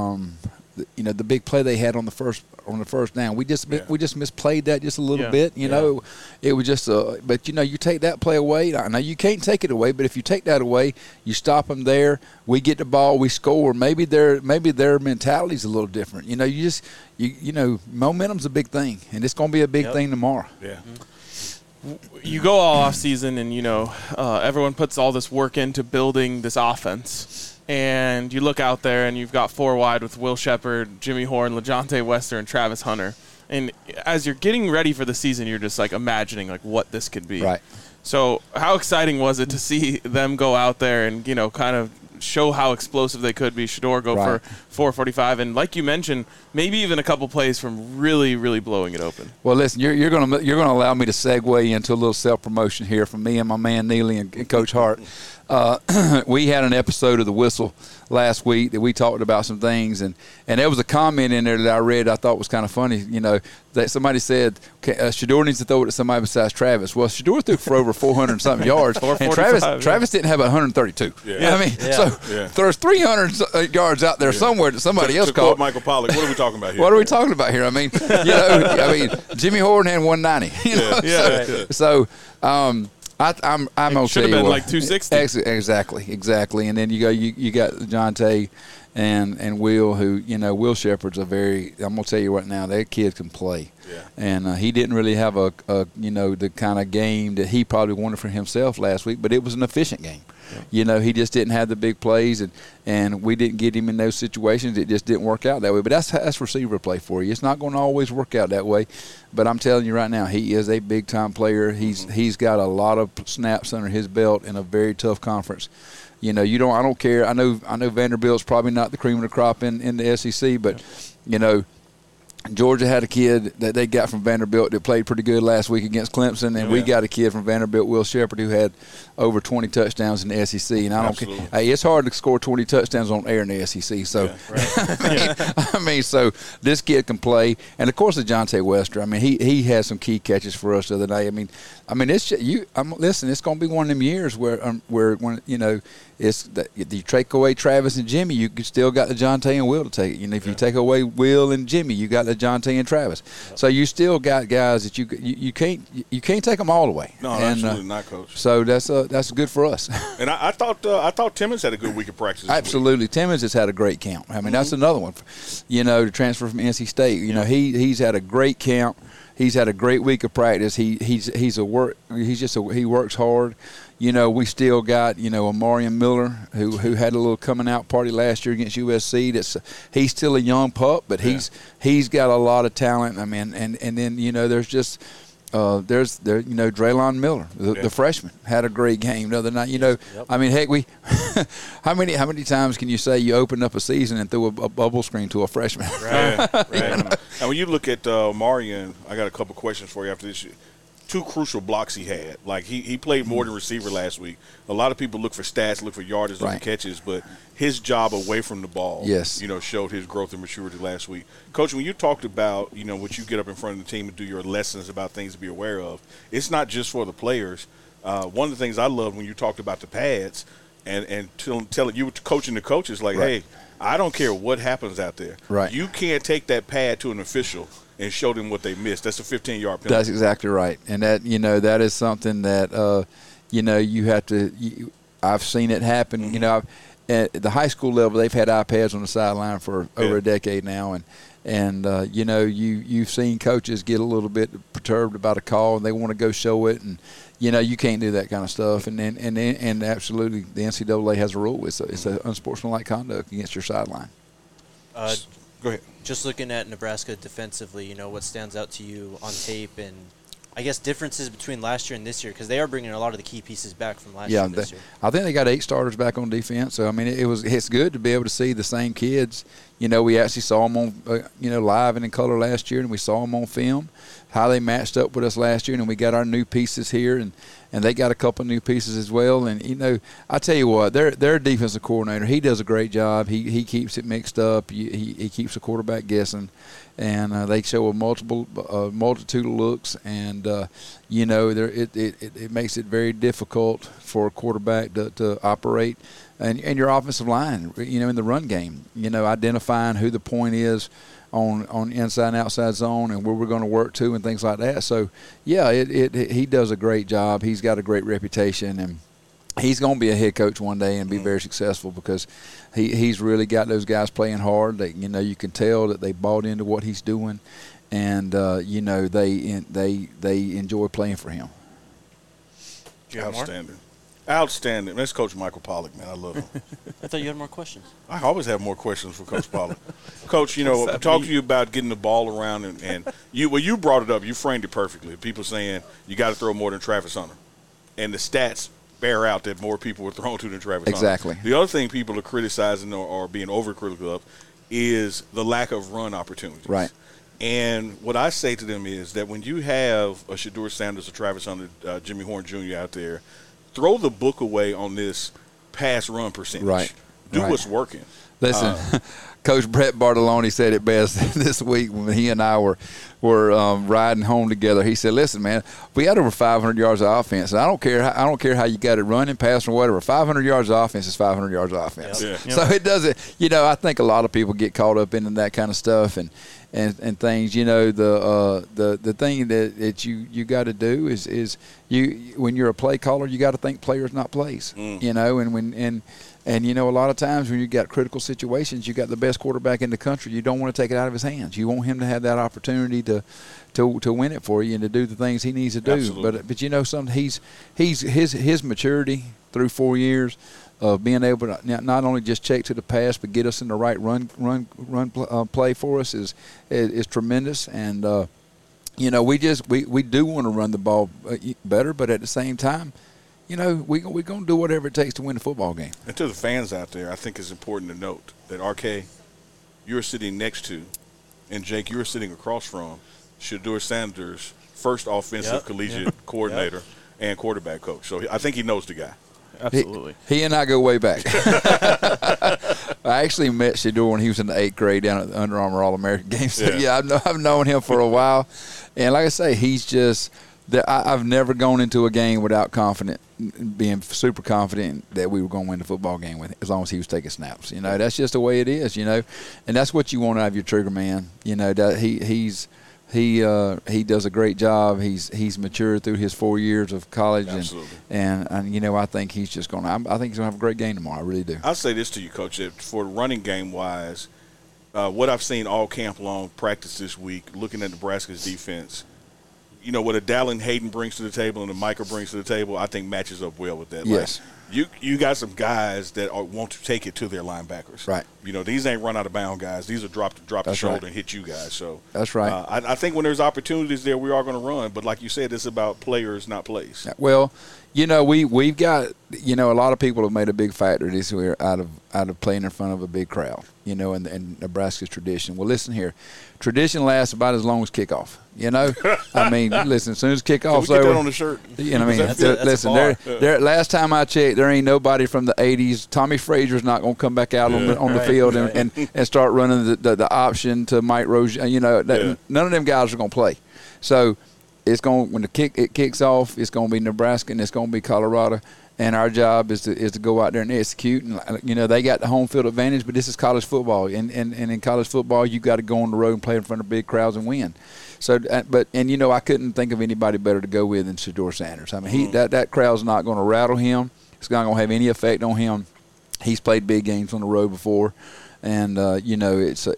the big play they had on the first down. We just misplayed that just a little bit. It was just but you take that play away. I know you can't take it away, but if you take that away, you stop them there. We get the ball, we score. Maybe their mentality's a little different. Momentum's a big thing, and it's going to be a big thing tomorrow. Yeah. You go all off season, and everyone puts all this work into building this offense. And you look out there, and you've got 4 wide with Will Shepard, Jimmy Horn, LaJohntay Wester, and Travis Hunter. And as you're getting ready for the season, you're just imagining what this could be. Right. So how exciting was it to see them go out there and kind of show how explosive they could be? Shedeur go for 445, and like you mentioned, maybe even a couple plays from really, really blowing it open. Well, listen, you're gonna allow me to segue into a little self promotion here from me and my man Neely and Coach Hart. We had an episode of The Whistle last week that we talked about some things, and there was a comment in there that I read I thought was kind of funny. That somebody said Shedeur needs to throw it to somebody besides Travis. Well, Shedeur threw for over 400-something yards, and Travis didn't have 132. So there's 300 yards out there somewhere that somebody else caught. Michael Pollack, what are we talking about here? What are we talking about here? I mean, Jimmy Horn had 190. So. I'm okay. Should have been 260. Exactly. And then you got JonTay and Will, who Will Shepard's I'm gonna tell you right now, that kid can play. Yeah. And he didn't really have a the kind of game that he probably wanted for himself last week, but it was an efficient game. Yeah. He just didn't have the big plays, and we didn't get him in those situations. It just didn't work out that way. But that's receiver play for you. It's not going to always work out that way. But I'm telling you right now, he is a big-time player. He's got a lot of snaps under his belt in a very tough conference. I don't care. I know Vanderbilt's probably not the cream of the crop in the SEC, but Georgia had a kid that they got from Vanderbilt that played pretty good last week against Clemson, and we got a kid from Vanderbilt, Will Shepard, who had over 20 touchdowns in the SEC. And I don't care. Hey, it's hard to score 20 touchdowns on air in the SEC. So, so this kid can play, and of course, LaJohntay Wester. I mean, he had some key catches for us the other day. I mean, it's listen. It's going to be one of them years where it's that you take away Travis and Jimmy, you still got LaJohntay and Will to take it. If you take away Will and Jimmy, you got LaJohntay and Travis. Yep. So you still got guys that you can't take them all away. No, absolutely not, Coach. So that's good for us. And I thought Timmons had a good week of practice. Absolutely, Timmons has had a great camp. I mean, that's another one. To transfer from NC State. He's had a great camp. He's had a great week of practice. He works hard. We still got Amarian Miller who had a little coming out party last year against USC. He's still a young pup, but he's got a lot of talent. I mean, and then there's just Draylon Miller, the freshman, had a great game the other night. I mean, heck, how many times can you say you opened up a season and threw a bubble screen to a freshman? Right. And when you look at Marion, I got a couple questions for you after this. two crucial blocks he had. Like he played more than receiver last week. A lot of people look for stats, look for yardage, look for catches, but his job away from the ball, showed his growth and maturity last week. Coach, when you talked about, what you get up in front of the team and do your lessons about things to be aware of, it's not just for the players. One of the things I loved when you talked about the pads and telling you were coaching the coaches, like, hey, I don't care what happens out there. Right. You can't take that pad to an official and show them what they missed. That's a 15-yard penalty. That's exactly right. And that, that is something that, you have to I've seen it happen. Mm-hmm. At the high school level, they've had iPads on the sideline for over a decade now. And you've seen coaches get a little bit perturbed about a call, and they want to go show it. And, you can't do that kind of stuff. And absolutely, the NCAA has a rule. It's an unsportsmanlike conduct against your sideline. Go ahead. Just looking at Nebraska defensively, what stands out to you on tape, and I guess differences between last year and this year, because they are bringing a lot of the key pieces back from last year and this year. I think they got 8 starters back on defense. So, I mean, it's good to be able to see the same kids. We actually saw them on, live and in color last year, and we saw them on film, how they matched up with us last year, and we got our new pieces here, and they got a couple new pieces as well. And, I tell you what, their defensive coordinator, he does a great job. He keeps it mixed up. He keeps the quarterback guessing. And they show a multitude of looks, and it makes it very difficult for a quarterback to operate, and your offensive line, in the run game, identifying who the point is on inside and outside zone and where we're going to work to and things like that. So he does a great job. He's got a great reputation, and he's going to be a head coach one day and be very successful because he's really got those guys playing hard. They, you can tell that they bought into what he's doing, and they enjoy playing for him. Outstanding. That's Coach Michael Pollack, man. I love him. I thought you had more questions. I always have more questions for Coach Pollack. Coach, talk to you about getting the ball around, and you brought it up. You framed it perfectly. People saying you got to throw more than Travis Hunter, and the stats bear out that more people were thrown to than Travis Exactly. Hunter. The other thing people are criticizing or being overcritical of is the lack of run opportunities. Right. And what I say to them is that when you have a Shedeur Sanders, a Travis Hunter, Jimmy Horn Jr. out there, throw the book away on this pass run percentage. Right. Do what's working. Listen, Coach Brett Bartolone said it best this week when he and I were riding home together. He said, "Listen, man, we had over 500 yards of offense. And I don't care how you got it running, passing, or whatever. 500 yards of offense is 500 yards of offense. Yep. So it doesn't. I think a lot of people get caught up in that kind of stuff and things. The thing that you got to do is when you're a play caller, you got to think players, not plays. And a lot of times when you got critical situations, you got the best quarterback in the country. You don't want to take it out of his hands. You want him to have that opportunity to win it for you and to do the things he needs to do. Absolutely. But something his maturity through 4 years of being able to not only just check to the pass but get us in the right run play for us is tremendous. And we do want to run the ball better, but at the same time, we're going to do whatever it takes to win the football game. And to the fans out there, I think it's important to note that, RK, you're sitting next to, and Jake, you're sitting across from Shedeur Sanders' first offensive collegiate coordinator and quarterback coach. So I think he knows the guy. Absolutely. He and I go way back. I actually met Shedeur when he was in the 8th grade down at the Under Armour All-American game. So, I've known him for a while. And like I say, he's just – I've never gone into a game without being super confident that we were going to win the football game with, as long as he was taking snaps. That's just the way it is. And that's what you want out of your trigger man. That he does a great job. He's matured through his 4 years of college. Absolutely. And I think he's just going to. I think he's going to have a great game tomorrow. I really do. I'll say this to you, Coach, that for running game wise, what I've seen all camp long, practice this week, looking at Nebraska's defense. What a Dallin Hayden brings to the table and a Micah brings to the table, I think matches up well with that. Yes. You got some guys that want to take it to their linebackers. Right. These ain't run out of bound guys. These are drop the shoulder right. and hit you guys. So That's right. I think when there's opportunities there, we are going to run. But like you said, it's about players, not plays. Well, we've got a lot of people have made a big factor this year out of playing in front of a big crowd. And Nebraska's tradition. Well, listen here, tradition lasts about as long as kickoff. I mean, listen, as soon as kickoff's Can we get over, that on the shirt? I mean, That's a listen, bar. there. Last time I checked, there ain't nobody from the '80s. Tommy Frazier's not going to come back out on the field and start running the option to Mike Rozier. None of them guys are going to play. So it's going when it kicks off. It's going to be Nebraska and it's going to be Colorado. And our job is to go out there and execute. And they got the home field advantage, but this is college football. And in college football, you got to go on the road and play in front of big crowds and win. So, I couldn't think of anybody better to go with than Shedeur Sanders. I mean, that crowd's not going to rattle him. It's not going to have any effect on him. He's played big games on the road before, and it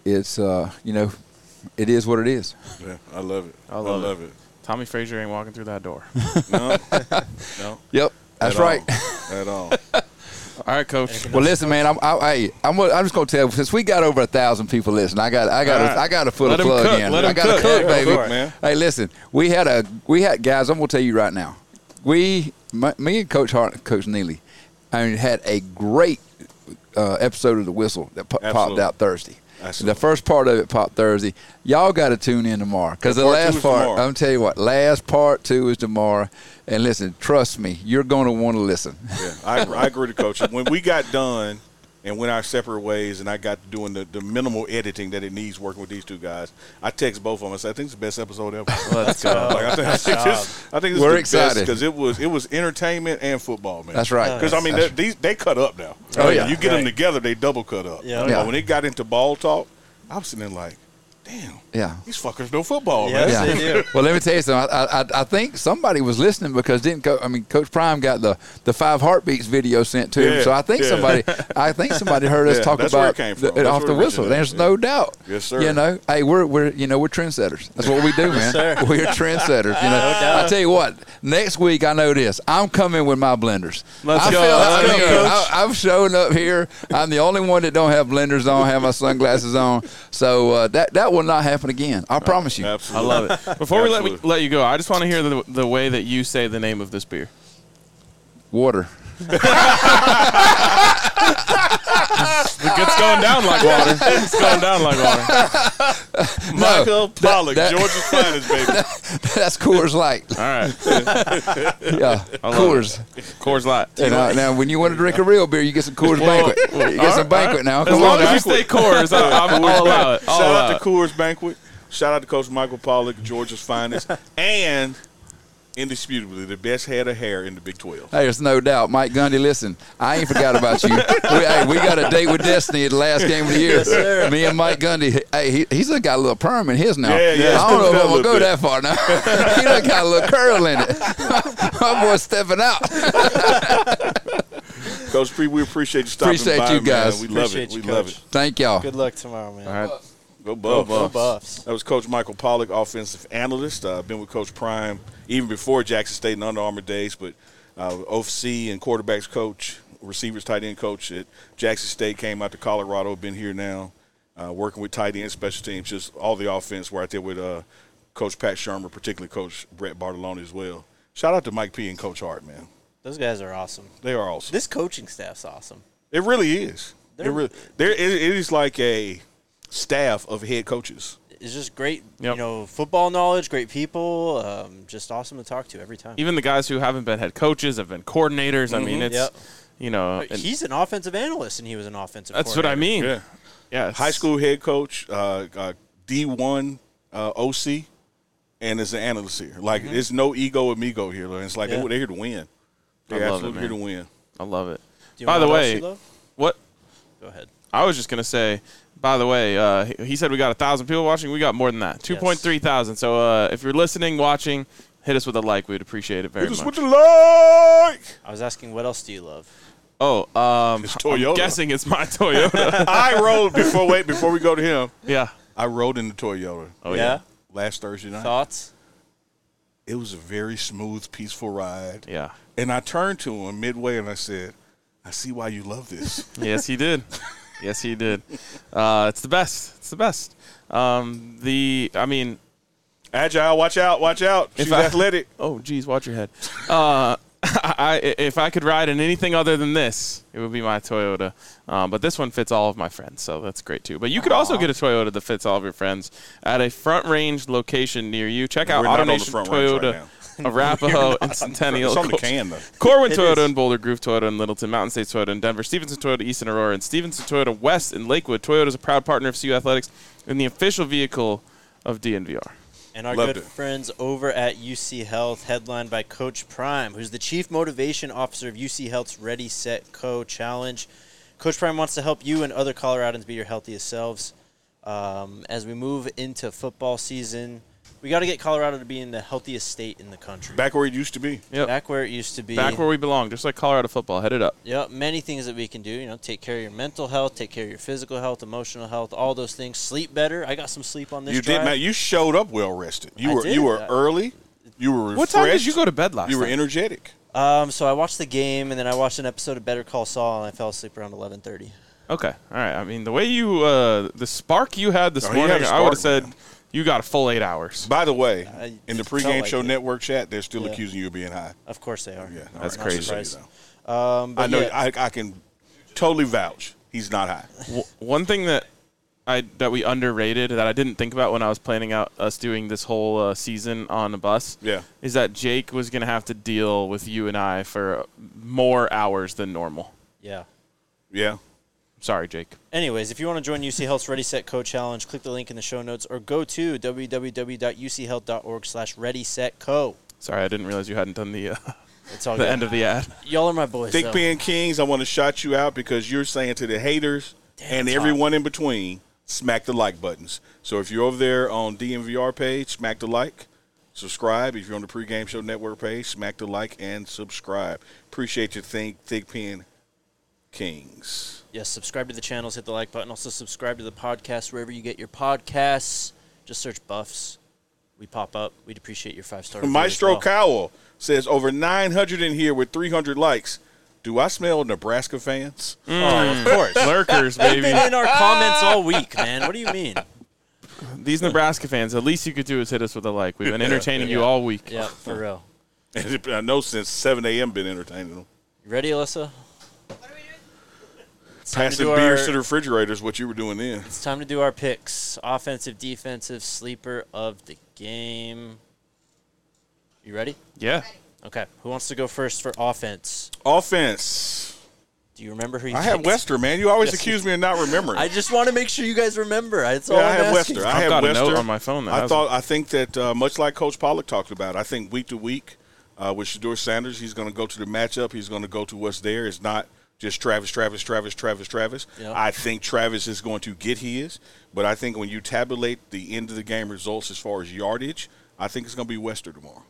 is what it is. Yeah, I love it. I love it. Tommy Frazier ain't walking through that door. No. Yep, that's right. At all. All right, Coach. Well, listen, man. I'm just gonna tell you, since we got over 1,000 people listening, I got to put Let a him plug cook. in. Let him I got to cook. cook, Yeah, baby. go for it, man. Hey, listen, we had guys. I'm gonna tell you right now. Me and Coach Hart and Coach Neely, had a great episode of The Whistle that popped Absolutely. out Thursday. Absolutely. The first part of it popped Thursday. Y'all got to tune in tomorrow because the Part 2 last is part, tomorrow. I'm tell you what, last part 2 is tomorrow. And listen, trust me, you're going to want to listen. Yeah, I agree with Coach. When we got done and went our separate ways and I got doing the minimal editing that it needs working with these two guys, I text both of them and said, I think it's the best episode ever. Let's go. I think this We're is the excited. because it was entertainment and football, man. That's right. Because, I mean, they cut up now. Oh, yeah. You get them Right. together, they double cut up. Yeah. But Yeah. when it got into ball talk, I was sitting there like, damn, Yeah. these fuckers know football, Yes, man. they do. Well, let me tell you something. I think somebody was listening because Coach Prime got the 5 heartbeats video sent to him. Yeah, So I think yeah. somebody heard us Yeah, talk that's where about it came from. it That's off where the it whistle. originated. There's no doubt. Yes, sir. Hey, we're trendsetters. That's what we do, man. sir. We're trendsetters. doubt. I tell you what. Next week, I know this. I'm coming with my blenders. Let's go. I'm showing up here. I'm the only one that don't have blenders on, have my sunglasses on. So that will not happen again. I promise you. I Absolutely. love it. Before we Absolutely. let you go, I just want to hear the way that you say the name of this beer. Water. It's going down like water. It's going down like water. Michael Pollock, that- Georgia's finest, baby. That's Coors Light. All right. Yeah, love Coors. Coors Light. And, now, when you want to drink a real beer, you get some Coors Banquet. You get some Banquet now. As Come long on as now. you stay Coors, I'll allow it. I'll Shout allow out it. to Coors Banquet. Shout out to Coach Michael Pollock, Georgia's finest, and indisputably the best head of hair in the Big 12. Hey, there's no doubt. Mike Gundy, listen, I ain't forgot about you. We got a date with Destiny at the last game of the year. Yes, sir. Me and Mike Gundy, hey, he's got a little perm in his now. Yeah, I don't know if I'm going to go bit. that far now. He done got a little curl in it. My boy's stepping out. Coach P, we appreciate you stopping Appreciate by, you guys. man. We love Appreciate it. you, We love Coach. it. Thank y'all. Good luck tomorrow, man. All right. Go Buffs. Go Buffs. That was Coach Michael Pollock, offensive analyst. Been with Coach Prime even before Jackson State and Under Armour days, but OC and quarterbacks coach, receivers, tight end coach at Jackson State, came out to Colorado, been here now, working with tight end, special teams, just all the offense. We're out there with Coach Pat Shermer, particularly Coach Brett Bartolone as well. Shout out to Mike P and Coach Hart, man. Those guys are awesome. They are awesome. This coaching staff's awesome. It really is. They're- It is like a staff of head coaches. It's just great, Yep. football knowledge, great people, just awesome to talk to every time. Even the guys who haven't been head coaches have been coordinators. I mean, it's, Yep. and He's an offensive analyst, and he was an offensive that's what I coordinator. mean. Yeah. Yeah. it's- High school head coach, D1 OC, and is an analyst here. Like, it's no ego amigo here. It's like Yeah. they're here to win. They're I love it, absolutely here to man. win. I love it. Do you By know the what else way, you love? what? Go ahead. I was just going to say, by the way, he said we got 1,000 people watching. We got more than that, 2.3 thousand. So if you're listening, watching, hit us with a like. We'd appreciate it very Hit us much. with the like. I was asking, what else do you love? Oh, It's I'm Toyota. guessing it's my Toyota. I rode before we go to him. Yeah. I rode in the Toyota Oh, yeah. last Thursday night. Thoughts? It was a very smooth, peaceful ride. Yeah. And I turned to him midway and I said, I see why you love this. Yes, he did. Yes, he did. It's the best. It's the best. Agile, watch out. She's athletic. Oh, geez, watch your head. If I could ride in anything other than this, it would be my Toyota. But this one fits all of my friends, so that's great too. But you could also get a Toyota that fits all of your friends at a Front Range location near you. Check out We're not on the AutoNation Front Range right Toyota, now. Arapahoe, and Centennial. It's on the can, though. Corwin It Toyota is. in Boulder, Groove Toyota in Littleton, Mountain States Toyota in Denver, Stevenson Toyota East in Aurora, and Stevenson Toyota West in Lakewood. Toyota is a proud partner of CU Athletics and the official vehicle of DNVR. And our Loved good it. friends over at UC Health, headlined by Coach Prime, who's the Chief Motivation Officer of UC Health's Ready, Set, Co Challenge. Coach Prime wants to help you and other Coloradans be your healthiest selves. As we move into football season, we got to get Colorado to be in the healthiest state in the country. Back where it used to be. Yep. Back where it used to be. Back where we belong, just like Colorado football. Head it up. Yep, many things that we can do. You know, take care of your mental health, take care of your physical health, emotional health, all those things. Sleep better. I got some sleep on this You drive. did, man. You showed up well rested. I You were did. early. You were refreshed. What time did you go to bed last You were night? energetic. So I watched the game, and then I watched an episode of Better Call Saul, and I fell asleep around 11:30. Okay, all right. I mean, the way you, the spark you had this Oh, he had morning, a I would have spark, said man. you got a full 8 hours. By the way, I in the felt pregame like show it. network chat, they're still Yeah. accusing you of being high. Of course they are. Yeah, all That's right, crazy. just so you Surprised. know. But I know. yeah, I can totally vouch. He's not high. One thing that we underrated that I didn't think about when I was planning out us doing this whole season on the bus Yeah. is that Jake was going to have to deal with you and I for more hours than normal. yeah. Yeah. Sorry, Jake. Anyways, if you want to join UC Health's Ready, Set, Co Challenge, click the link in the show notes or go to www.uchealth.org/readysetco. Sorry, I didn't realize you hadn't done the It's all the good. end of the ad. Y'all are my boys. Thick though. Pen Kings, I want to shout you out because you're saying to the haters Damn and top. everyone in between, smack the like buttons. So if you're over there on DNVR page, smack the like, subscribe. If you're on the Pregame Show Network page, smack the like and subscribe. Appreciate you, Thick Pen Kings. Yes, subscribe to the channels, hit the like button. Also, subscribe to the podcast wherever you get your podcasts. Just search Buffs. We pop up. We'd appreciate your 5-star review Maestro as well. Cowell says over 900 in here with 300 likes. Do I smell Nebraska fans? Oh, of course. Lurkers, They've baby. been in our comments all week, man. What do you mean? These Nebraska fans, the least you could do is hit us with a like. We've been entertaining you Yeah. all week. Yeah, for real. I know since 7 a.m. been entertaining them. You ready, Alyssa? What are we doing? It's time to Passing do beers our- to the refrigerator is what you were doing then. It's time to do our picks. Offensive, defensive, sleeper of the game. You ready? Yeah. Okay. Who wants to go first for offense? Offense. Do you remember who you I have picked? Wester, man. You always Yes. accuse me of not remembering. I just want to make sure you guys remember. That's all Yeah, I I'm have asking. Wester. I I've have got a Wester. note on my phone that has I think that much like Coach Pollock talked about, I think week to week with Shedeur Sanders, he's going to go to the matchup. He's going to go to what's there. It's not just Travis. Yep. I think Travis is going to get his, but I think when you tabulate the end of the game results as far as yardage, I think it's going to be Wester tomorrow.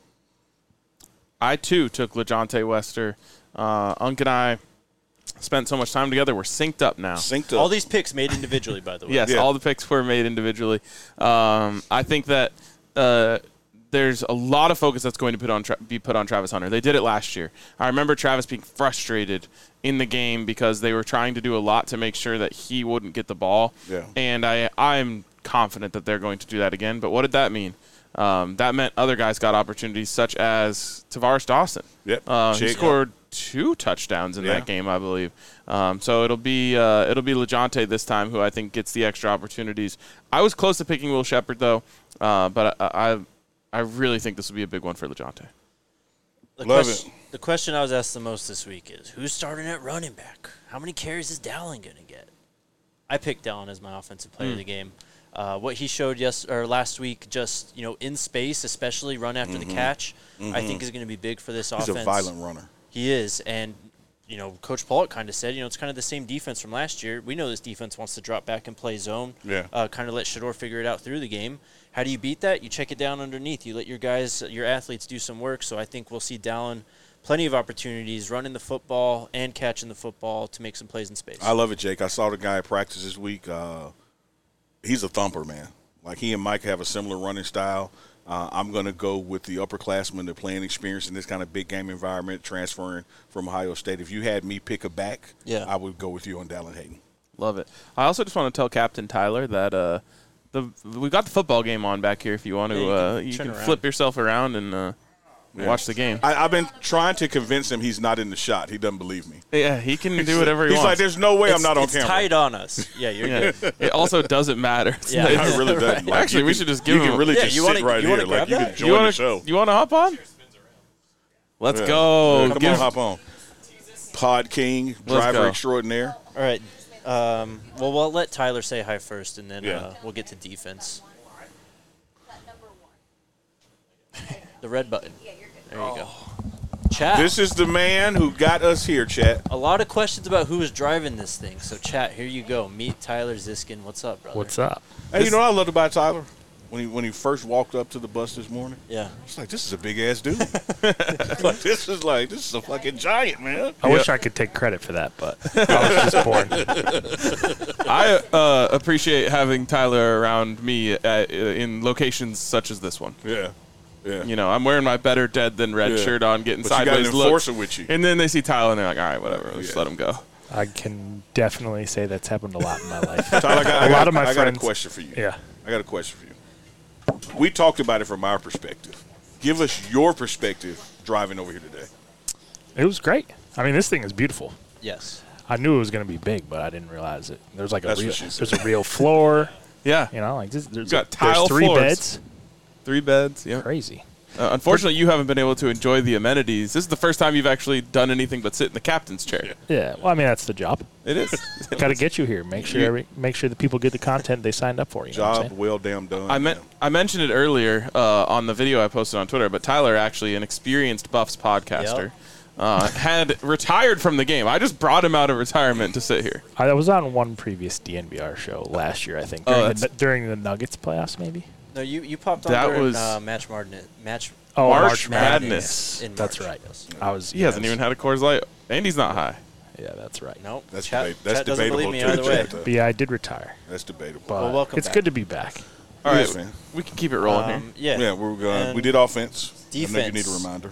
I, too, took LeJontay Wester. Unc and I spent so much time together. We're synced up now. Synced up. All these picks made individually, by the way. Yes, Yeah. all the picks were made individually. I think that there's a lot of focus that's going to be put on Travis Hunter. They did it last year. I remember Travis being frustrated in the game because they were trying to do a lot to make sure that he wouldn't get the ball. Yeah. And I'm confident that they're going to do that again. But what did that mean? That meant other guys got opportunities, such as Tavares Dawson. Yep. He Jake. scored 2 touchdowns in Yeah. that game, I believe. So it'll be LeJontay this time, who I think gets the extra opportunities. I was close to picking Will Shepherd though, but I really think this will be a big one for LeJontay. The question I was asked the most this week is, who's starting at running back? How many carries is Dallin going to get? I picked Dallin as my offensive player of the game. What he showed last week, just in space, especially run after the catch, I think is going to be big for this He's offense. a violent runner. He is, and Coach Pollock kind of said, it's kind of the same defense from last year. We know this defense wants to drop back and play zone. Yeah. Kind of let Shedeur figure it out through the game. How do you beat that? You check it down underneath. You let your guys, your athletes, do some work. So I think we'll see Dallin plenty of opportunities running the football and catching the football to make some plays in space. I love it, Jake. I saw the guy at practice this week. He's a thumper, man. Like, he and Mike have a similar running style. I'm going to go with the upperclassmen, the playing experience in this kind of big game environment, transferring from Ohio State. If you had me pick a back, I would go with you on Dallin Hayden. Love it. I also just want to tell Captain Tyler that we've got the football game on back here if you want to. You can flip yourself around and watch the game. I've been trying to convince him he's not in the shot. He doesn't believe me. Yeah, he can do whatever he wants. He's like, there's no way I'm not on camera. It's tight on us. Yeah, you're good. It also doesn't matter. Yeah. It really doesn't. Like, actually, we should just give him. You can really just sit right here. Like, you can join the show. You want to hop on? Let's go. Come on, hop on. Pod King, driver extraordinaire. All right. Well, we'll let Tyler say hi first, and then we'll get to defense. The red button. There you go. Chat. This is the man who got us here, chat. A lot of questions about who was driving this thing. So, chat, here you go. Meet Tyler Ziskin. What's up, brother? What's up? Hey, you know what I loved about Tyler? When he first walked up to the bus this morning? Yeah. It's like, this is a big-ass dude. This is a fucking giant, man. I wish I could take credit for that, but I was just born. I appreciate having Tyler around me in locations such as this one. Yeah. Yeah. You know, I'm wearing my better dead than red shirt on, getting but sideways you got an enforcer with you. And then they see Tyler and they're like, all right, whatever, let's just let him go. I can definitely say that's happened a lot in my life. Tyler, I got a question for you. Yeah. I got a question for you. We talked about it from our perspective. Give us your perspective driving over here today. It was great. I mean, this thing is beautiful. Yes. I knew it was going to be big, but I didn't realize it. There's like there's a real floor. Yeah. You know, like there's got tile three floors. beds. 3 beds, yeah. Crazy. Unfortunately, you haven't been able to enjoy the amenities. This is the first time you've actually done anything but sit in the captain's chair. Yeah. Well, I mean, that's the job. It is. Got to get you here. Make sure the people get the content they signed up for. You know what I'm Job saying? well damn done. I mentioned it earlier on the video I posted on Twitter, but Tyler, actually an experienced Buffs podcaster, had retired from the game. I just brought him out of retirement to sit here. I was on one previous DNVR show last year, I think, during the Nuggets playoffs, maybe. No, you popped on That during was March Madness. That's right. Yes. He hasn't even had a Coors Light, and he's not high. Yeah, that's right. Nope. That's Chat doesn't debatable. believe me too, either way. But yeah, I did retire. That's debatable. But Well, welcome it's back. good to be back. All right, Yes, man. we can keep it rolling here. Yeah. We did offense. Defense. I know you need a reminder.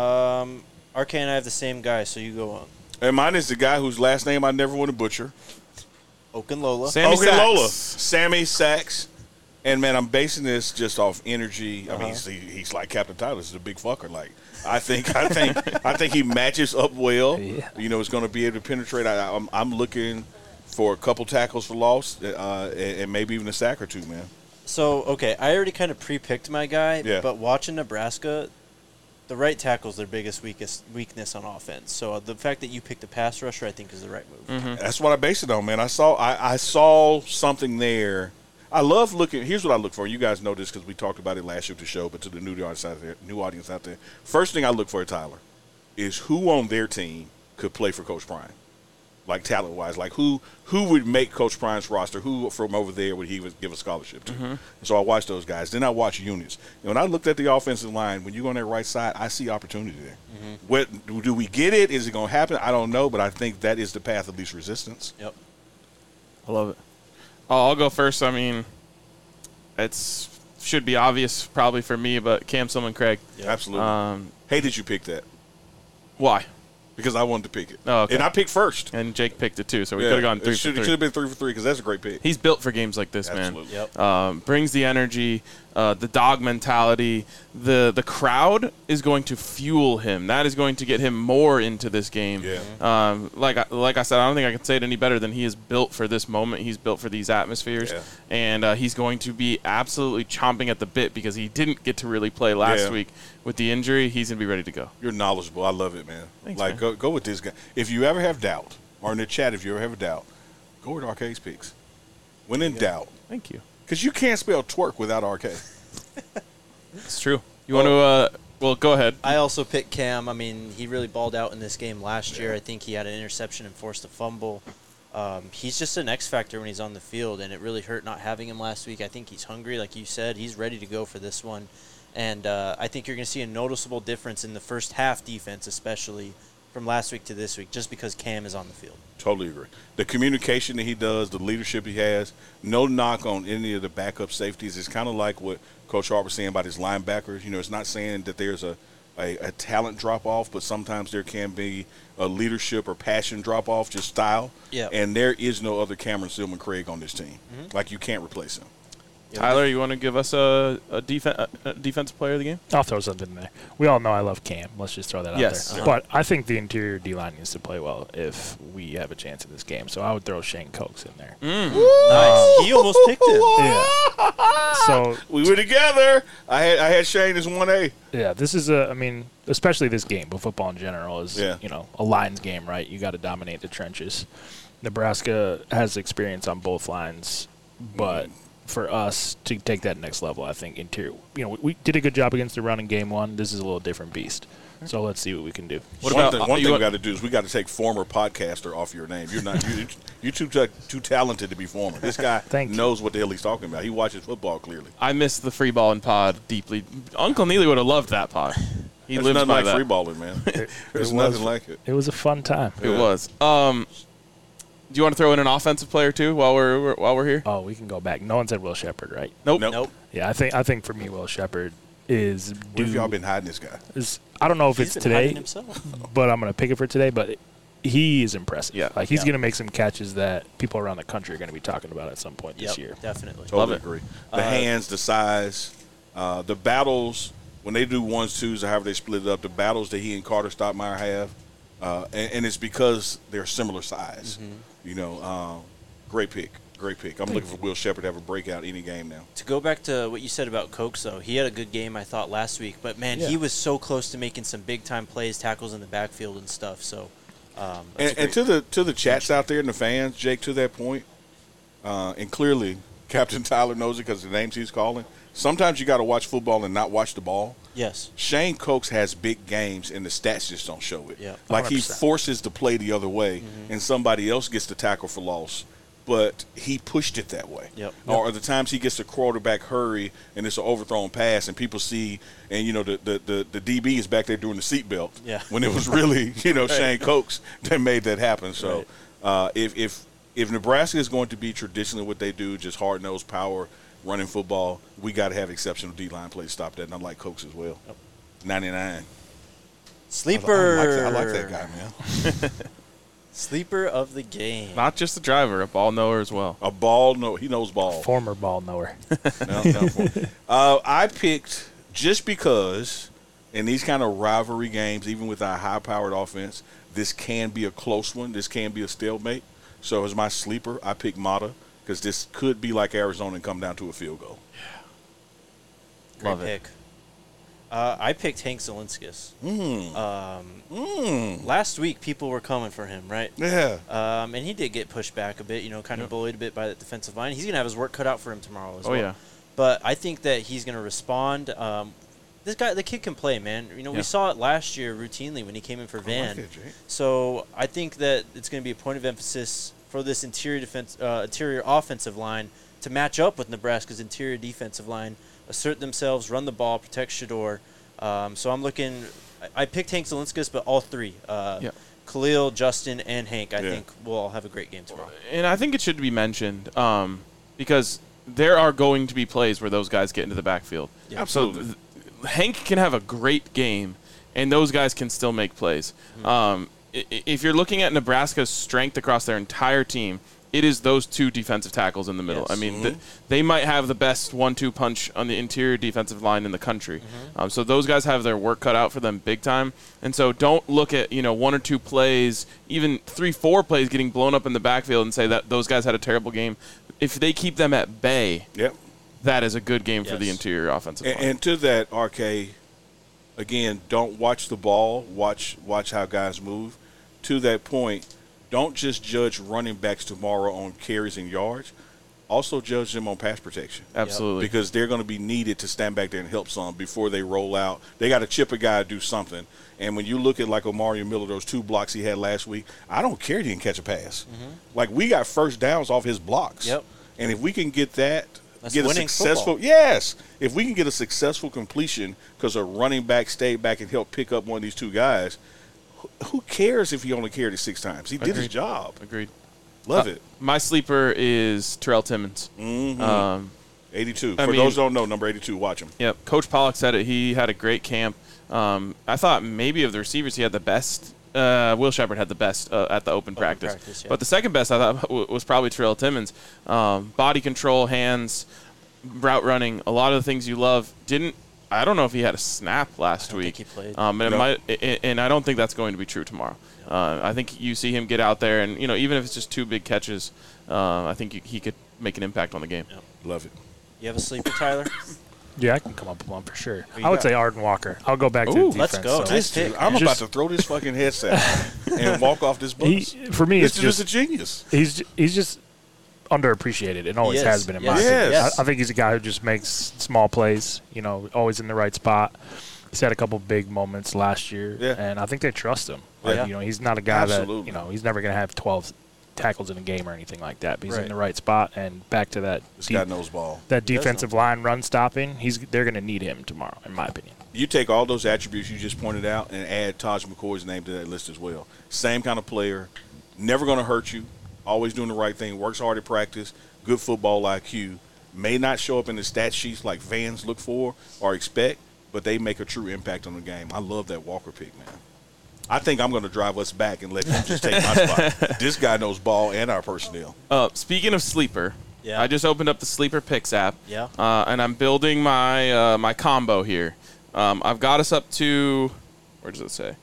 RK and I have the same guy, so you go on. And mine is the guy whose last name I never want to butcher. Okunlola. Okunlola. Sammy Sachs. And, man, I'm basing this just off energy. I mean, he's like Captain Tyler. He's a big fucker. Like, I think he matches up well. Yeah. You know, he's going to be able to penetrate. I'm looking for a couple tackles for loss and maybe even a sack or two, man. So, okay, I already kind of pre-picked my guy, but watching Nebraska, the right tackle is their biggest weakness on offense. So the fact that you picked a pass rusher, I think, is the right move. Mm-hmm. That's what I base it on, man. I saw something there. I love looking. Here's what I look for. You guys know this because we talked about it last year at the show, but to the new audience out there, first thing I look for at Tyler is who on their team could play for Coach Prime, like talent-wise. Like who would make Coach Prime's roster? Who from over there would he give a scholarship to? And so I watch those guys. Then I watch units. And when I looked at the offensive line, when you go on that right side, I see opportunity there. What do we get it? Is it going to happen? I don't know, but I think that is the path of least resistance. Yep. I love it. I'll go first. I mean, should be obvious probably for me, but Cam Sumlin-Craig. Yeah, absolutely. Hey, did you pick that? Why? Because I wanted to pick it. Oh, okay. And I picked first. And Jake picked it too, so we could have gone 3 for 3. It should have been 3 for 3 because that's a great pick. He's built for games like this, Absolutely. man. Yep. Brings the energy, the dog mentality. The crowd is going to fuel him. That is going to get him more into this game. Yeah. Like I said, I don't think I can say it any better than he is built for this moment. He's built for these atmospheres. Yeah. And he's going to be absolutely chomping at the bit because he didn't get to really play last week with the injury. He's going to be ready to go. You're knowledgeable. I love it, man. Thanks, like, man. Go with this guy. If you ever have doubt, or in the chat, if you ever have a doubt, go with Arcade's picks. When in doubt. Thank you. Because you can't spell twerk without Arcade. It's true. You want to well, go ahead. I also picked Cam. I mean, he really balled out in this game last year. I think he had an interception and forced a fumble. He's just an X factor when he's on the field, and it really hurt not having him last week. I think he's hungry, like you said. He's ready to go for this one. And I think you're going to see a noticeable difference in the first half defense, especially from last week to this week just because Cam is on the field. Totally agree. The communication that he does, the leadership he has, no knock on any of the backup safeties. It's kind of like what Coach Hart was saying about his linebackers. You know, it's not saying that there's a talent drop-off, but sometimes there can be a leadership or passion drop-off, just style. Yeah. And there is no other Cameron Silman Craig on this team. Like, you can't replace him. Tyler, you want to give us a defensive player of the game? I'll throw something in there. We all know I love Cam. Let's just throw that out there. But I think the interior D-line needs to play well if we have a chance in this game. So I would throw Shane Coates in there. Nice. He almost picked him. Yeah. So we were together. I had Shane as 1A. yeah, this is especially this game, but football in general is, a Lions game, right? You got to dominate the trenches. Nebraska has experience on both lines, but for us to take that next level, I think interior. We did a good job against the run in game one. This is a little different beast. So let's see what we can do. One thing we got to do is we got to take former podcaster off your name. You're not you're too talented to be former. This guy knows what the hell he's talking about. He watches football clearly. I miss the free balling pod deeply. Uncle Neely would have loved that pod. He lives nothing by like that. free balling, man. There's nothing like it. It was a fun time. It was. Do you want to throw in an offensive player too while we're here? Oh, we can go back. No one said Will Shepherd, right? Nope. Yeah, I think for me, Will Shepherd is. Where have y'all been hiding this guy? I don't know if He's it's been today, hiding himself. but I'm going to pick it for today. But he is impressive. Yeah. Like he's going to make some catches that people around the country are going to be talking about at some point this year. Definitely. Totally agree. The hands, the size, the battles. When they do 1s, 2s, or however they split it up, the battles that he and Carter Stottmeyer have, and it's because they're similar size. Great pick. I'm looking for Will Shepherd to have a breakout any game now. To go back to what you said about Cokes, though, he had a good game, I thought, last week. But, man, he was so close to making some big-time plays, tackles in the backfield and stuff. So, and to the chats out there and the fans, Jake, to that point, and clearly Captain Tyler knows it because the names he's calling, sometimes you got to watch football and not watch the ball. Yes. Shane Coates has big games, and the stats just don't show it. Yeah, like he forces the play the other way, and somebody else gets the tackle for loss. But he pushed it that way. Yep. Or the times he gets the quarterback hurry and it's an overthrown pass and people see, and the DB is back there doing the seatbelt. Yeah. When it was really Shane Coates that made that happen. So if Nebraska is going to be traditionally what they do, just hard nosed power running football, we got to have exceptional D-line play to stop that. And I like Coates as well. Yep. 99. Sleeper. I like that guy, man. Sleeper of the game. Not just a driver, a ball knower as well. A ball knower. He knows ball. Former ball knower. I picked just because in these kind of rivalry games, even with our high-powered offense, this can be a close one. This can be a stalemate. So as my sleeper, I picked Mata because this could be like Arizona and come down to a field goal. Great pick. I picked Hank Zielinskis. Last week, people were coming for him, right? Yeah. And he did get pushed back a bit, kind of bullied a bit by the defensive line. He's going to have his work cut out for him tomorrow as well. Yeah. But I think that he's going to respond. The kid can play, man. We saw it last year routinely when he came in for Van. Like it, Jake. So I think that it's going to be a point of emphasis for this interior offensive line to match up with Nebraska's interior defensive line, assert themselves, run the ball, protect Shedeur. So I'm looking – I picked Hank Zielinskis, but all three, Khalil, Justin, and Hank, I think will all have a great game tomorrow. And I think it should be mentioned because there are going to be plays where those guys get into the backfield. Yeah. Absolutely. So Hank can have a great game, and those guys can still make plays. If you're looking at Nebraska's strength across their entire team, it is those two defensive tackles in the middle. Yes. I mean, they might have the best 1-2 punch on the interior defensive line in the country. So those guys have their work cut out for them big time. And so don't look at, 1 or 2 plays, even 3-4 plays getting blown up in the backfield and say that those guys had a terrible game. If they keep them at bay, that is a good game for the interior offensive line. And to that, RK, again, don't watch the ball. Watch how guys move. To that point, don't just judge running backs tomorrow on carries and yards. Also judge them on pass protection. Absolutely. Because they're going to be needed to stand back there and help some before they roll out. They got to chip a guy to do something. And when you look at like Omari Miller, those 2 blocks he had last week, I don't care he didn't catch a pass. Like we got first downs off his blocks. Yep. And if we can get that, That's get a winning successful football. Yes. If we can get a successful completion because a running back stayed back and helped pick up one of these 2 guys, who cares if he only carried it 6 times? He did his job. Agreed. Love it. My sleeper is Terrell Timmons. 82. I For mean- those who don't know, number 82, watch him. Yep. Coach Pollock said it. He had a great camp. I thought maybe of the receivers, he had the best. Will Shepard had the best at the open practice. Yeah. But the second best, I thought, was probably Terrell Timmons. Body control, hands, route running, a lot of the things you love. I don't know if he had a snap last week. think he played. And I don't think that's going to be true tomorrow. I think you see him get out there, and even if it's just 2 big catches, I think he could make an impact on the game. Yep. Love it. You have a sleeper, Tyler? Yeah, I can come up with one for sure. Who you I would got? say Arden Walker. I'll go back to Ooh, the let's defense. go. So. Nice pick. I'm Just- about to throw this fucking headset and walk off this bus. For me, This it's dude is just a genius. he's just underappreciated and always He is. has been in Yes. my opinion. Yes. I think he's a guy who just makes small plays, always in the right spot. He's had a couple big moments last year, Yeah. and I think they trust him. Yeah. He's not a guy Absolutely. that, he's never going to have 12 tackles in a game or anything like that, but he's Right. in the right spot. And back to that This guy knows ball. that does defensive line run stopping, they're going to need him tomorrow, in my opinion. You take all those attributes you just pointed out and add Taj McCoy's name to that list as well. Same kind of player, never going to hurt you, always doing the right thing, works hard at practice, good football IQ, may not show up in the stat sheets like fans look for or expect, but they make a true impact on the game. I love that Walker pick, man. I think I'm going to drive us back and let him just take my spot. This guy knows ball and our personnel. Speaking of sleeper, Yeah. I just opened up the Sleeper Picks app. Yeah. And I'm building my my combo here. I've got us up to, where does it say?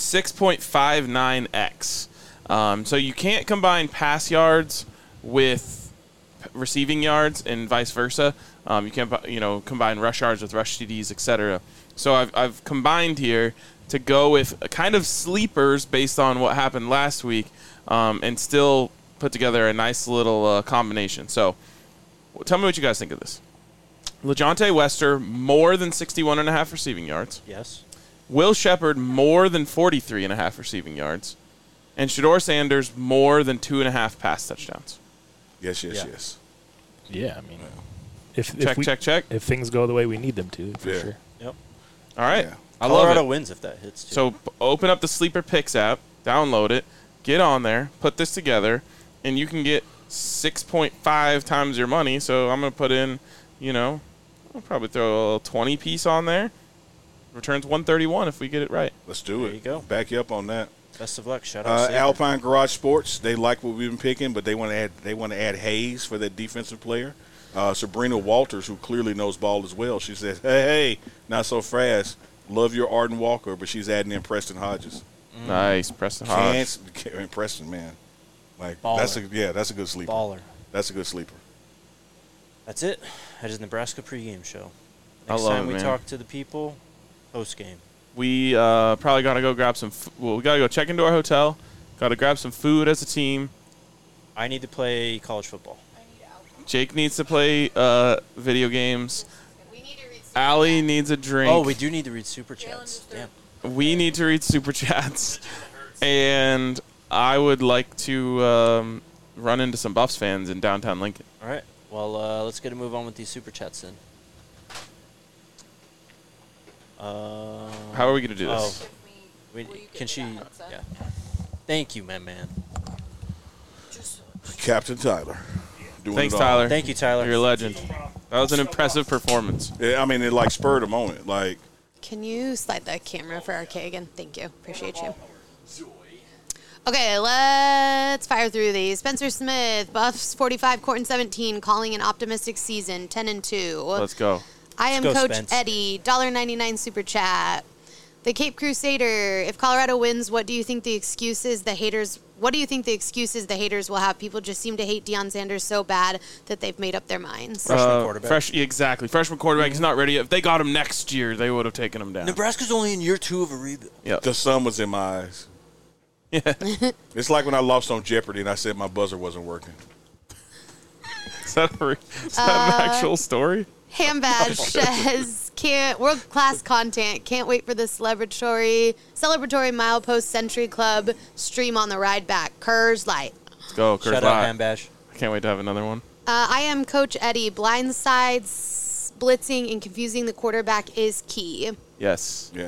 6.59x. So you can't combine pass yards with receiving yards and vice versa. You can't combine rush yards with rush TDs, etc. So I've combined here to go with a kind of sleepers based on what happened last week, and still put together a nice little combination. So tell me what you guys think of this. LeJontay Wester, more than 61.5 receiving yards. Yes. Will Shepard, more than 43.5 receiving yards. And Shedeur Sanders, more than 2.5 pass touchdowns. Yes. Yeah. Yeah, I mean, if Check. if things go the way we need them to, for Yeah. sure. Yep. All right. Yeah. I love Colorado it. wins if that hits, too. So open up the Sleeper Picks app, download it, get on there, put this together, and you can get 6.5 times your money. So I'm going to put in, I'll probably throw a 20 piece on there. Returns 131 if we get it right. Let's do it. There you go. Back you up on that. Best of luck. Shout out Saber. Alpine Garage Sports, they like what we've been picking, but they want to add Hayes for that defensive player. Sabrina Walters, who clearly knows ball as well, she says, hey, not so fast. Love your Arden Walker, but she's adding in Preston Hodges. Nice. Preston Hodge. Preston, man. Like Baller. that's a good sleeper. Baller. That's a good sleeper. That's it. That is Nebraska pregame show. I Next love time it, we man. talk to the people, post game. We probably got to go grab some we got to go check into our hotel. Got to grab some food as a team. I need to play college football. Jake needs to play video games. We need to read Allie needs a drink. Oh, we do need to read super chats. Damn. We need to read Super Chats. And I would like to run into some Buffs fans in downtown Lincoln. All right. Well, let's get a move on with these super chats then. How are we going to do this? Can she? Yeah. Thank you, man. Captain Tyler. Doing Thanks, it all. Tyler. Thank you, Tyler. You're a legend. That was an impressive performance. Yeah, I mean, it like spurred a moment. Like, Can you slide the camera for RK again? Thank you. Appreciate you. Okay, let's fire through these. Spencer Smith, Buffs 45, Corton 17, calling an optimistic season, 10-2. Let's go. I am Let's go, Coach Spence. Eddie, $1.99 super chat. The Cape Crusader, if Colorado wins, what do you think the excuses the haters will have? People just seem to hate Deion Sanders so bad that they've made up their minds. Freshman quarterback. Exactly. Freshman quarterback. He's not ready yet. If they got him next year, they would have taken him down. Nebraska's only in year 2 of a rebuild. Yep. the sun was in my eyes. Yeah. It's like when I lost on Jeopardy and I said my buzzer wasn't working. Is that an actual story? Hambadge says, world-class content. Can't wait for the celebratory milepost Century Club stream on the ride back. Kurz Light. Let's go. Kurt Shout out Lott. Hambash. I can't wait to have another one. I am Coach Eddie. Blindsides, blitzing, and confusing the quarterback is key. Yes. Yeah.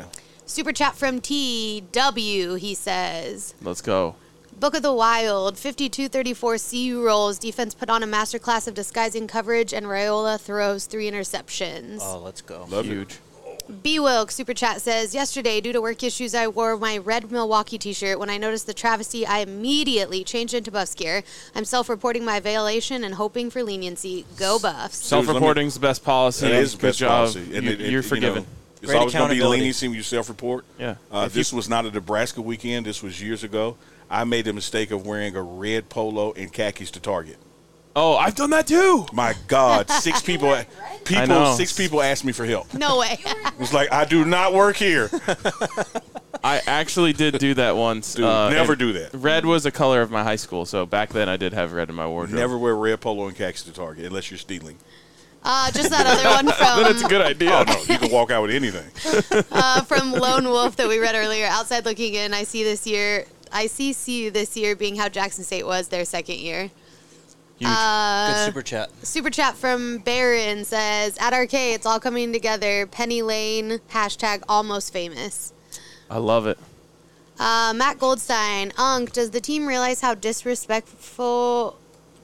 Super chat from TW, he says. Let's go. Book of the Wild, 52-34 CU rolls. Defense put on a masterclass of disguising coverage, and Raiola throws 3 interceptions. Oh, let's go. Love Huge. B-Wilk Super Chat says, yesterday, due to work issues, I wore my red Milwaukee t-shirt. When I noticed the travesty, I immediately changed into Buffs gear. I'm self-reporting my violation and hoping for leniency. Go Buffs. Self-reporting's the best policy. It is the Good best job. policy. You're forgiven. It's Great always going to be accountability. leniency when you self-report. Yeah. This was not a Nebraska weekend. This was years ago. I made the mistake of wearing a red polo and khakis to Target. Oh, I've done that too. My God, 6 people I know. 6 people asked me for help. No way. It was like, I do not work here. I actually did do that once. Dude, never and do that. Red was a color of my high school, so back then I did have red in my wardrobe. Never wear red polo and khakis to Target unless you're stealing. Just that other one Then it's a from good idea. Oh, no, you can walk out with anything. from Lone Wolf that we read earlier. Outside looking in, I see CU this year being how Jackson State was their second year. Huge. Good super chat. Super chat from Baron says, at RK, it's all coming together. Penny Lane, # almost famous. I love it. Matt Goldstein, does the team realize how disrespected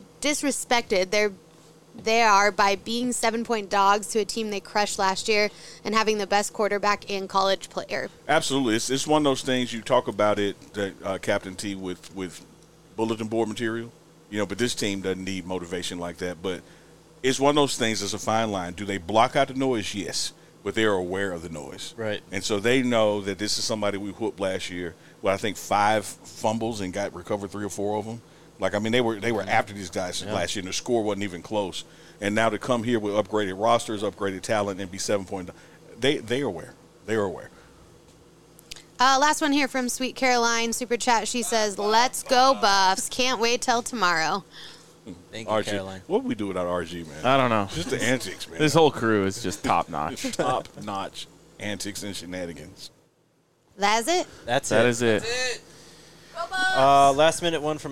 they are by being 7-point dogs to a team they crushed last year and having the best quarterback and college player? Absolutely. It's one of those things you talk about it, Captain T, with bulletin board material. But this team doesn't need motivation like that. But it's one of those things. It's a fine line. Do they block out the noise? Yes. But they are aware of the noise. Right. And so they know that this is somebody we whooped last year. Well, I think 5 fumbles and recovered 3 or 4 of them. They were after these guys last year, and the score wasn't even close. And now to come here with upgraded rosters, upgraded talent, and be 7-point, they are aware. They are aware. Last one here from Sweet Caroline, Super Chat. She says, let's go, Buffs. Can't wait till tomorrow. Thank you, RG. Caroline. What would we do without RG, man? I don't know. Just the antics, man. This whole crew is just top notch. Top-notch antics and shenanigans. That's it? That's That it. is it. Last minute one from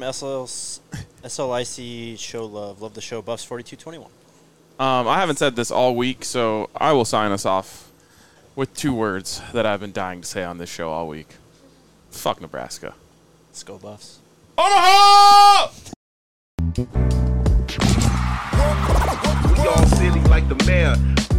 SLIC Show Love. Love the show. Buffs 4221. I haven't said this all week, so I will sign us off with 2 words that I've been dying to say on this show all week. Fuck Nebraska. Let's go, Buffs. Omaha! We all silly like the mayor.